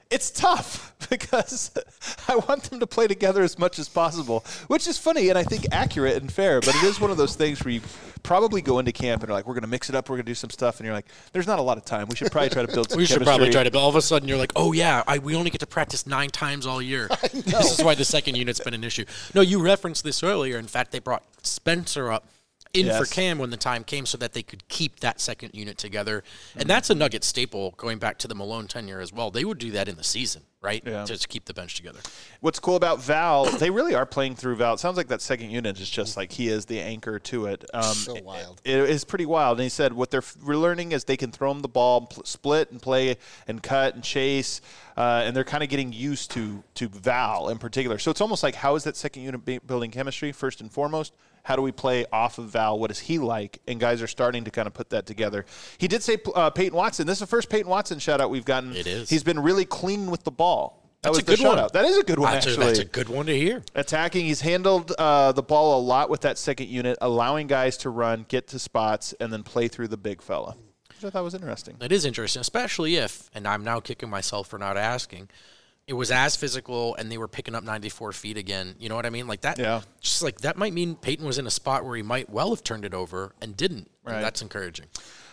It's tough because I want them to play together as much as possible, which is funny and I think accurate and fair. But it is one of those things where you probably go into camp and are like, we're going to mix it up, we're going to do some stuff. And you're like, there's not a lot of time. We should probably try to build some chemistry. But all of a sudden you're like, oh, yeah, we only get to practice 9 times all year. This is why the second unit's been an issue. No, you referenced this earlier. In fact, they brought Spencer up for Cam when the time came so that they could keep that second unit together. And that's a Nugget staple going back to the Malone tenure as well. They would do that in the season, right? Yeah. To keep the bench together. What's cool about Val, they really are playing through Val. It sounds like that second unit is just like he is the anchor to it. So wild. It is pretty wild. And he said what we're learning is they can throw him the ball, split and play and cut and chase. And they're kind of getting used to Val in particular. So it's almost like, how is that second unit building chemistry, first and foremost? How do we play off of Val? What is he like? And guys are starting to kind of put that together. He did say Peyton Watson. This is the first Peyton Watson shout-out we've gotten. It is. He's been really clean with the ball. That's a good one. That is a good one, actually. That's a good one to hear. Attacking, he's handled the ball a lot with that second unit, allowing guys to run, get to spots, and then play through the big fella, which I thought was interesting. It is interesting, especially if, and I'm now kicking myself for not asking, it was as physical and they were picking up 94 feet again. You know what I mean? Like that. Yeah. Just like that might mean Peyton was in a spot where he might well have turned it over and didn't. Right. And that's encouraging.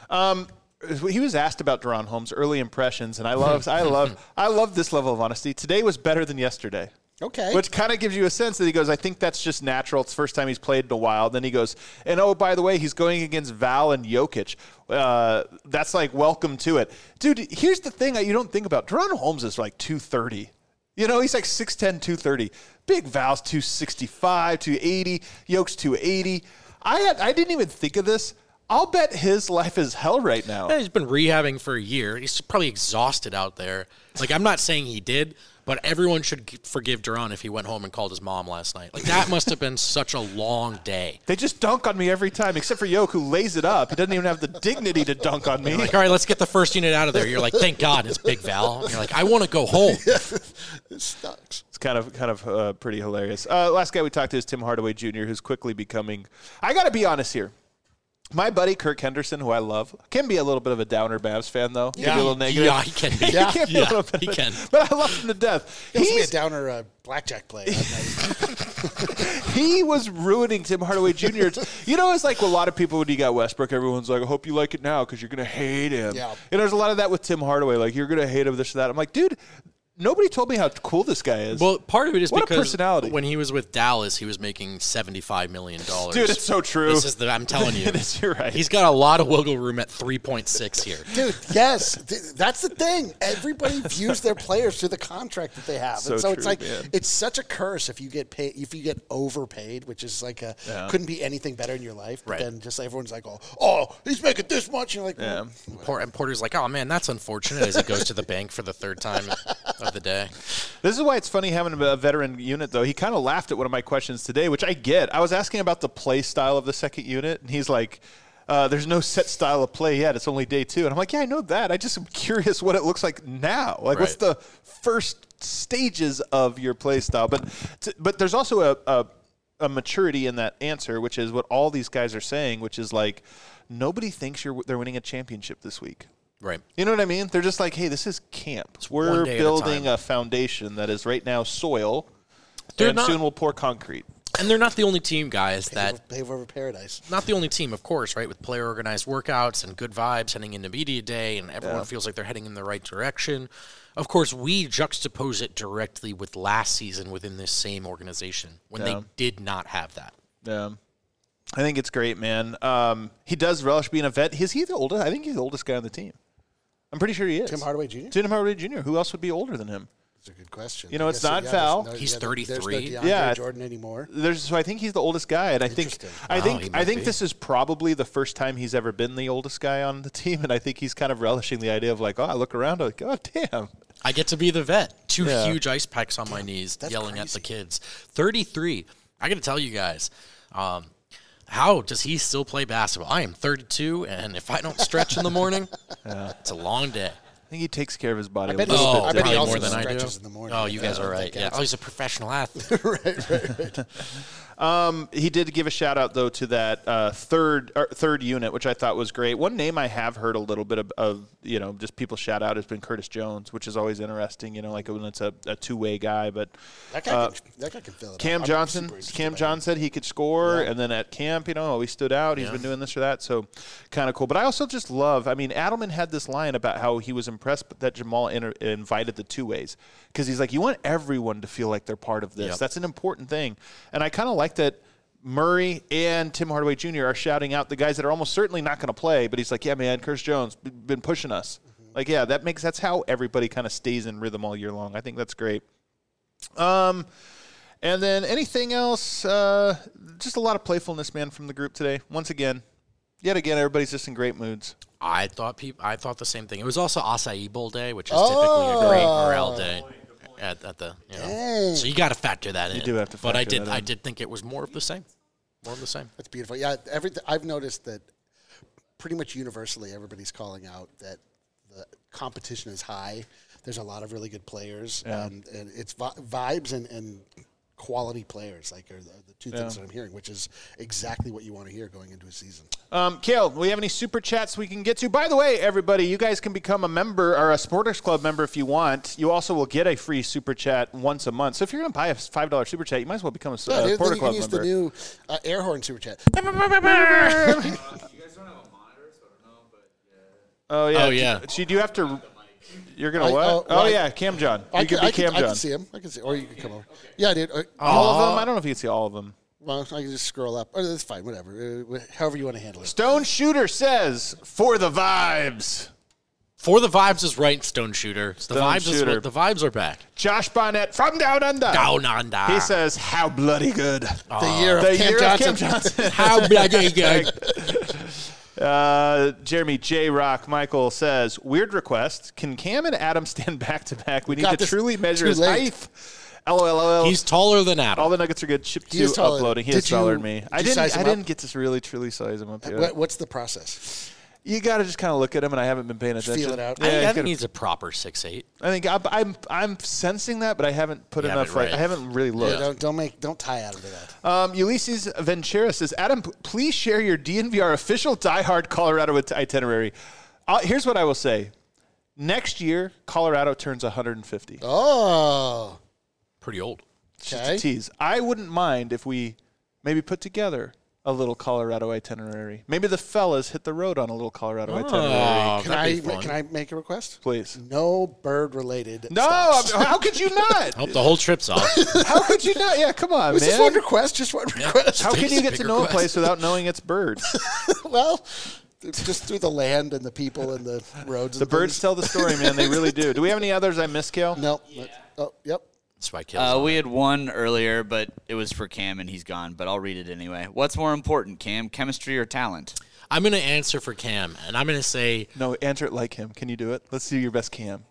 He was asked about De'Ron Holmes' early impressions, and I love this level of honesty. Today was better than yesterday. Okay. Which kind of gives you a sense that he goes, I think that's just natural. It's the first time he's played in a while. Then he goes, and oh, by the way, he's going against Val and Jokic. That's like, welcome to it. Dude, here's the thing you don't think about. De'Ron Holmes is like 230. You know, he's like 6'10", 230. Big Val's 265, 280. Jokic's 280. I didn't even think of this. I'll bet his life is hell right now. Yeah, he's been rehabbing for a year. He's probably exhausted out there. Like, I'm not saying he did, but everyone should forgive De'Ron if he went home and called his mom last night. Like, that must have been such a long day. They just dunk on me every time, except for Yoke, who lays it up. He doesn't even have the dignity to dunk on me. You're like, all right, let's get the first unit out of there. You're like, thank God it's Big Val. And you're like, I want to go home. It sucks. It's kind of pretty hilarious. Last guy we talked to is Tim Hardaway Jr., who's quickly becoming – I got to be honest here. My buddy Kirk Henderson, who I love, can be a little bit of a downer Mavs fan, though. Yeah, can be a little negative. Yeah, he can be. He can. But I love him to death. He's a downer blackjack player. He was ruining Tim Hardaway Jr. You know, it's like a lot of people when you got Westbrook, everyone's like, I hope you like it now because you're going to hate him. Yeah. And there's a lot of that with Tim Hardaway. Like, you're going to hate him, this or that. I'm like, dude, nobody told me how cool this guy is. Well, part of it is what because a personality. When he was with Dallas, he was making $75 million. Dude, it's so true. I'm telling you. You're right. He's got a lot of wiggle room at 3.6 here. Dude, yes. That's the thing. Everybody views their players through the contract that they have. So and so true, it's like, man. It's such a curse if you get paid, if you get overpaid, which is like couldn't be anything better in your life. But right. then just everyone's like, oh, he's making this much. And you're like, And Porter's like, oh, man, that's unfortunate as he goes to the bank for the third time of the day. This is why it's funny having a veteran unit, though. He kind of laughed at one of my questions today, which I get. I was asking about the play style of the second unit, and he's like, there's no set style of play yet. It's only day 2. And I'm like, yeah, I know that. I just am curious what it looks like now. Like, what's the first stages of your play style? But there's also a maturity in that answer, which is what all these guys are saying, which is like, nobody thinks they're winning a championship this week. Right. You know what I mean? They're just like, hey, this is camp. We're building a foundation that is right now soil, and soon we'll pour concrete. And they're not the only team, guys, pave over paradise. Not the only team, of course, right, with player-organized workouts and good vibes heading into media day, and everyone feels like they're heading in the right direction. Of course, we juxtapose it directly with last season within this same organization when they did not have that. Yeah. I think it's great, man. He does relish being a vet. Is he the oldest? I think he's the oldest guy on the team. I'm pretty sure he is. Tim Hardaway Jr.? Tim Hardaway Jr. Who else would be older than him? That's a good question. You know, it's not Val. He's 33. There's no DeAndre Jordan anymore. So I think he's the oldest guy, and I think this is probably the first time he's ever been the oldest guy on the team, and I think he's kind of relishing the idea of like, I look around, I'm like, oh damn, I get to be the vet. 2 huge ice packs on my knees, yelling at the kids. 33. I got to tell you guys. How does he still play basketball? I am 32, and if I don't stretch in the morning, it's a long day. I think he takes care of his body. I bet he also more than I do. In the morning. Oh, you guys are right. Yeah. Oh, he's a professional athlete. right. He did give a shout out though to that third unit, which I thought was great. One name I have heard a little bit of just people shout out has been Curtis Jones, which is always interesting. Like when it's a two-way guy, but that guy can fill it. Cam Johnson said he could score, and then at camp, he stood out. He's been doing this or that, so kind of cool. But I also just love. I mean, Adelman had this line about how he was impressed that Jamal invited the two ways because he's like, you want everyone to feel like they're part of this. Yep. That's an important thing, and I kind of like that. Murray and Tim Hardaway Jr. are shouting out the guys that are almost certainly not going to play, but he's like, yeah, man, Curtis Jones been pushing us. Mm-hmm. Like, yeah, that's how everybody kind of stays in rhythm all year long. I think that's great. And then anything else? Just a lot of playfulness, man, from the group today. Yet again, everybody's just in great moods. I thought the same thing. It was also Acai Bowl day, which is typically a great morale day. At the so you got to factor that in. You do have to factor that in. I did think it was more of the same. That's beautiful. Yeah, I've noticed that pretty much universally everybody's calling out that the competition is high. There's a lot of really good players, and it's vibes and quality players are the two things that I'm hearing, which is exactly what you want to hear going into a season. Kale, do we have any super chats we can get to? By the way, everybody, you guys can become a member or a Sporters Club member if you want. You also will get a free super chat once a month. So if you're going to buy a $5 super chat, you might as well become a Sporters Club member. You can use the new air horn super chat. You guys don't have a monitor, so I don't know, but yeah. Oh, yeah. Oh, yeah. Do you have to... You're going to what? Cam John. You can be Cam John. I can see him. Or you can come over. Yeah, dude. All of them? I don't know if you can see all of them. Well, I can just scroll up. Oh, that's fine. Whatever. However you want to handle it. Stone Shooter says, for the vibes. For the vibes is right, Stone Shooter. The vibes are back. Josh Bonnet from Down Under. Down Under. He says, how bloody good. The year of Cam Johnson. How bloody good. Jeremy J. Rock Michael says, weird request. Can Cam and Adam stand back to back? We need to truly measure his height. LOL. He's taller than Adam. All the nuggets are good. Chip 2 uploading. He is taller than me. I didn't get to really truly size him up yet. What's the process? You got to just kind of look at him, and I haven't been paying attention. Feel it out. I think he's a proper 6'8". I think I'm sensing that, but I haven't put enough. I haven't really looked. Yeah, don't tie Adam to that. Ulysses Ventura says, Adam, please share your DNVR official diehard Colorado itinerary. Here's what I will say: next year, Colorado turns 150. Oh, pretty old. Just a tease. I wouldn't mind if we maybe put together a little Colorado itinerary. Maybe the fellas hit the road on a little Colorado itinerary. Can I make a request? Please. No bird-related stuff. How could you not? Hope the whole trip's off. How could you not? Yeah, come on, man. Just one request. How can you get to know a place without knowing it's birds? Well, just through the land and the people and the roads. The birds tell the story, man. They really do. Do we have any others I missed, Kale? No. Oh, yep. We had one earlier, but it was for Cam, and he's gone. But I'll read it anyway. What's more important, Cam, chemistry or talent? I'm going to answer for Cam, and I'm going to say... No, answer it like him. Can you do it? Let's see your best Cam.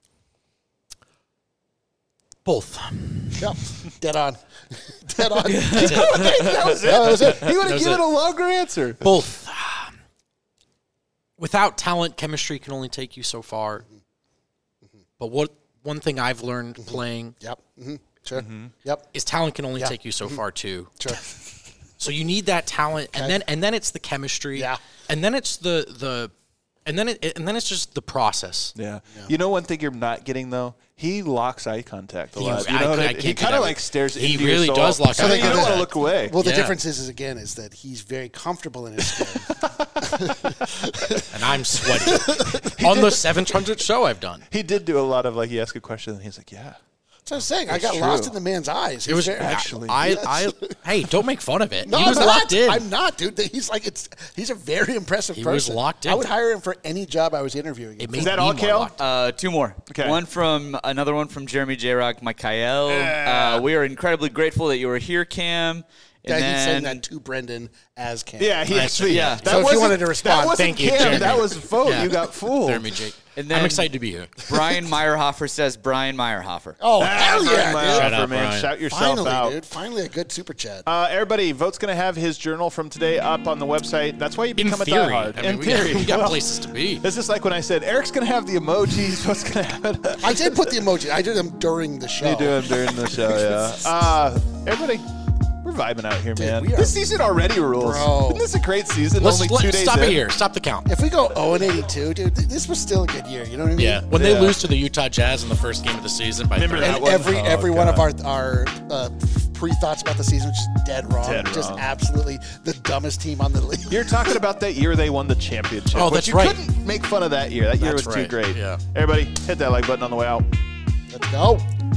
Both. Yep. Dead on. That was it. He would have given a longer answer. Both. Without talent, chemistry can only take you so far. But one thing I've learned playing Sure. is talent can only take you so far too. Sure. So you need that talent, and then it's the chemistry, and then it's and then it's just the process. Yeah. You know one thing you're not getting though? He locks eye contact a lot. He kind of like stares into your soul. He really does lock eye contact. You don't want to look away. Well, the difference is that he's very comfortable in his skin. And I'm sweaty. On the 700 show I've done. He did do a lot of he asked a question and he's like, yeah. That's what I'm saying. I got lost in the man's eyes. It was actually. Hey, don't make fun of it. No, he was locked in. I'm not, dude. He's a very impressive person. He was locked in. I would hire him for any job I was interviewing. Is that all, Kale? Two more. Okay. Another one from Jeremy J. Rock, Mikael. We are incredibly grateful that you were here, Cam. Yeah, he's saying that to Brendan as Cam. Yeah, he actually. Yeah. So if you wanted to respond, thank you, Cam. Jeremy. That was a vote. Yeah. You got fooled. Jeremy J. And then I'm excited to be here. Brian Meyerhofer says Brian Meyerhofer. Oh, hell yeah, dude. Shut up, man. Brian. Shout yourself Finally, out. dude. Finally a good super chat. Everybody, Vote's going to have his journal from today up on the website. That's why you become a diehard. In theory. We got places to be. This is like when I said, Eric's going to have the emojis. What's going to happen? I did put the emoji. I did them during the show. You do them during the show, yeah. Everybody, we're vibing out here, man. we are- This season already rules. Bro. Isn't this a great season? Let's Only 2 days stop in. it here. Stop the count. If we go 0-82, dude, this was still a good year. You know what I mean? Yeah. When Yeah. they lose to the Utah Jazz in the first game of the season by Remember 30. that And one? every Oh, one of God. our pre-thoughts about the season was just dead wrong. Dead just wrong. absolutely the dumbest team on the league. You're talking about that year they won the championship. Oh, which that's you right. couldn't make fun of that year. That year That's was too right. great. Yeah. Everybody, hit that like button on the way out. Let's go.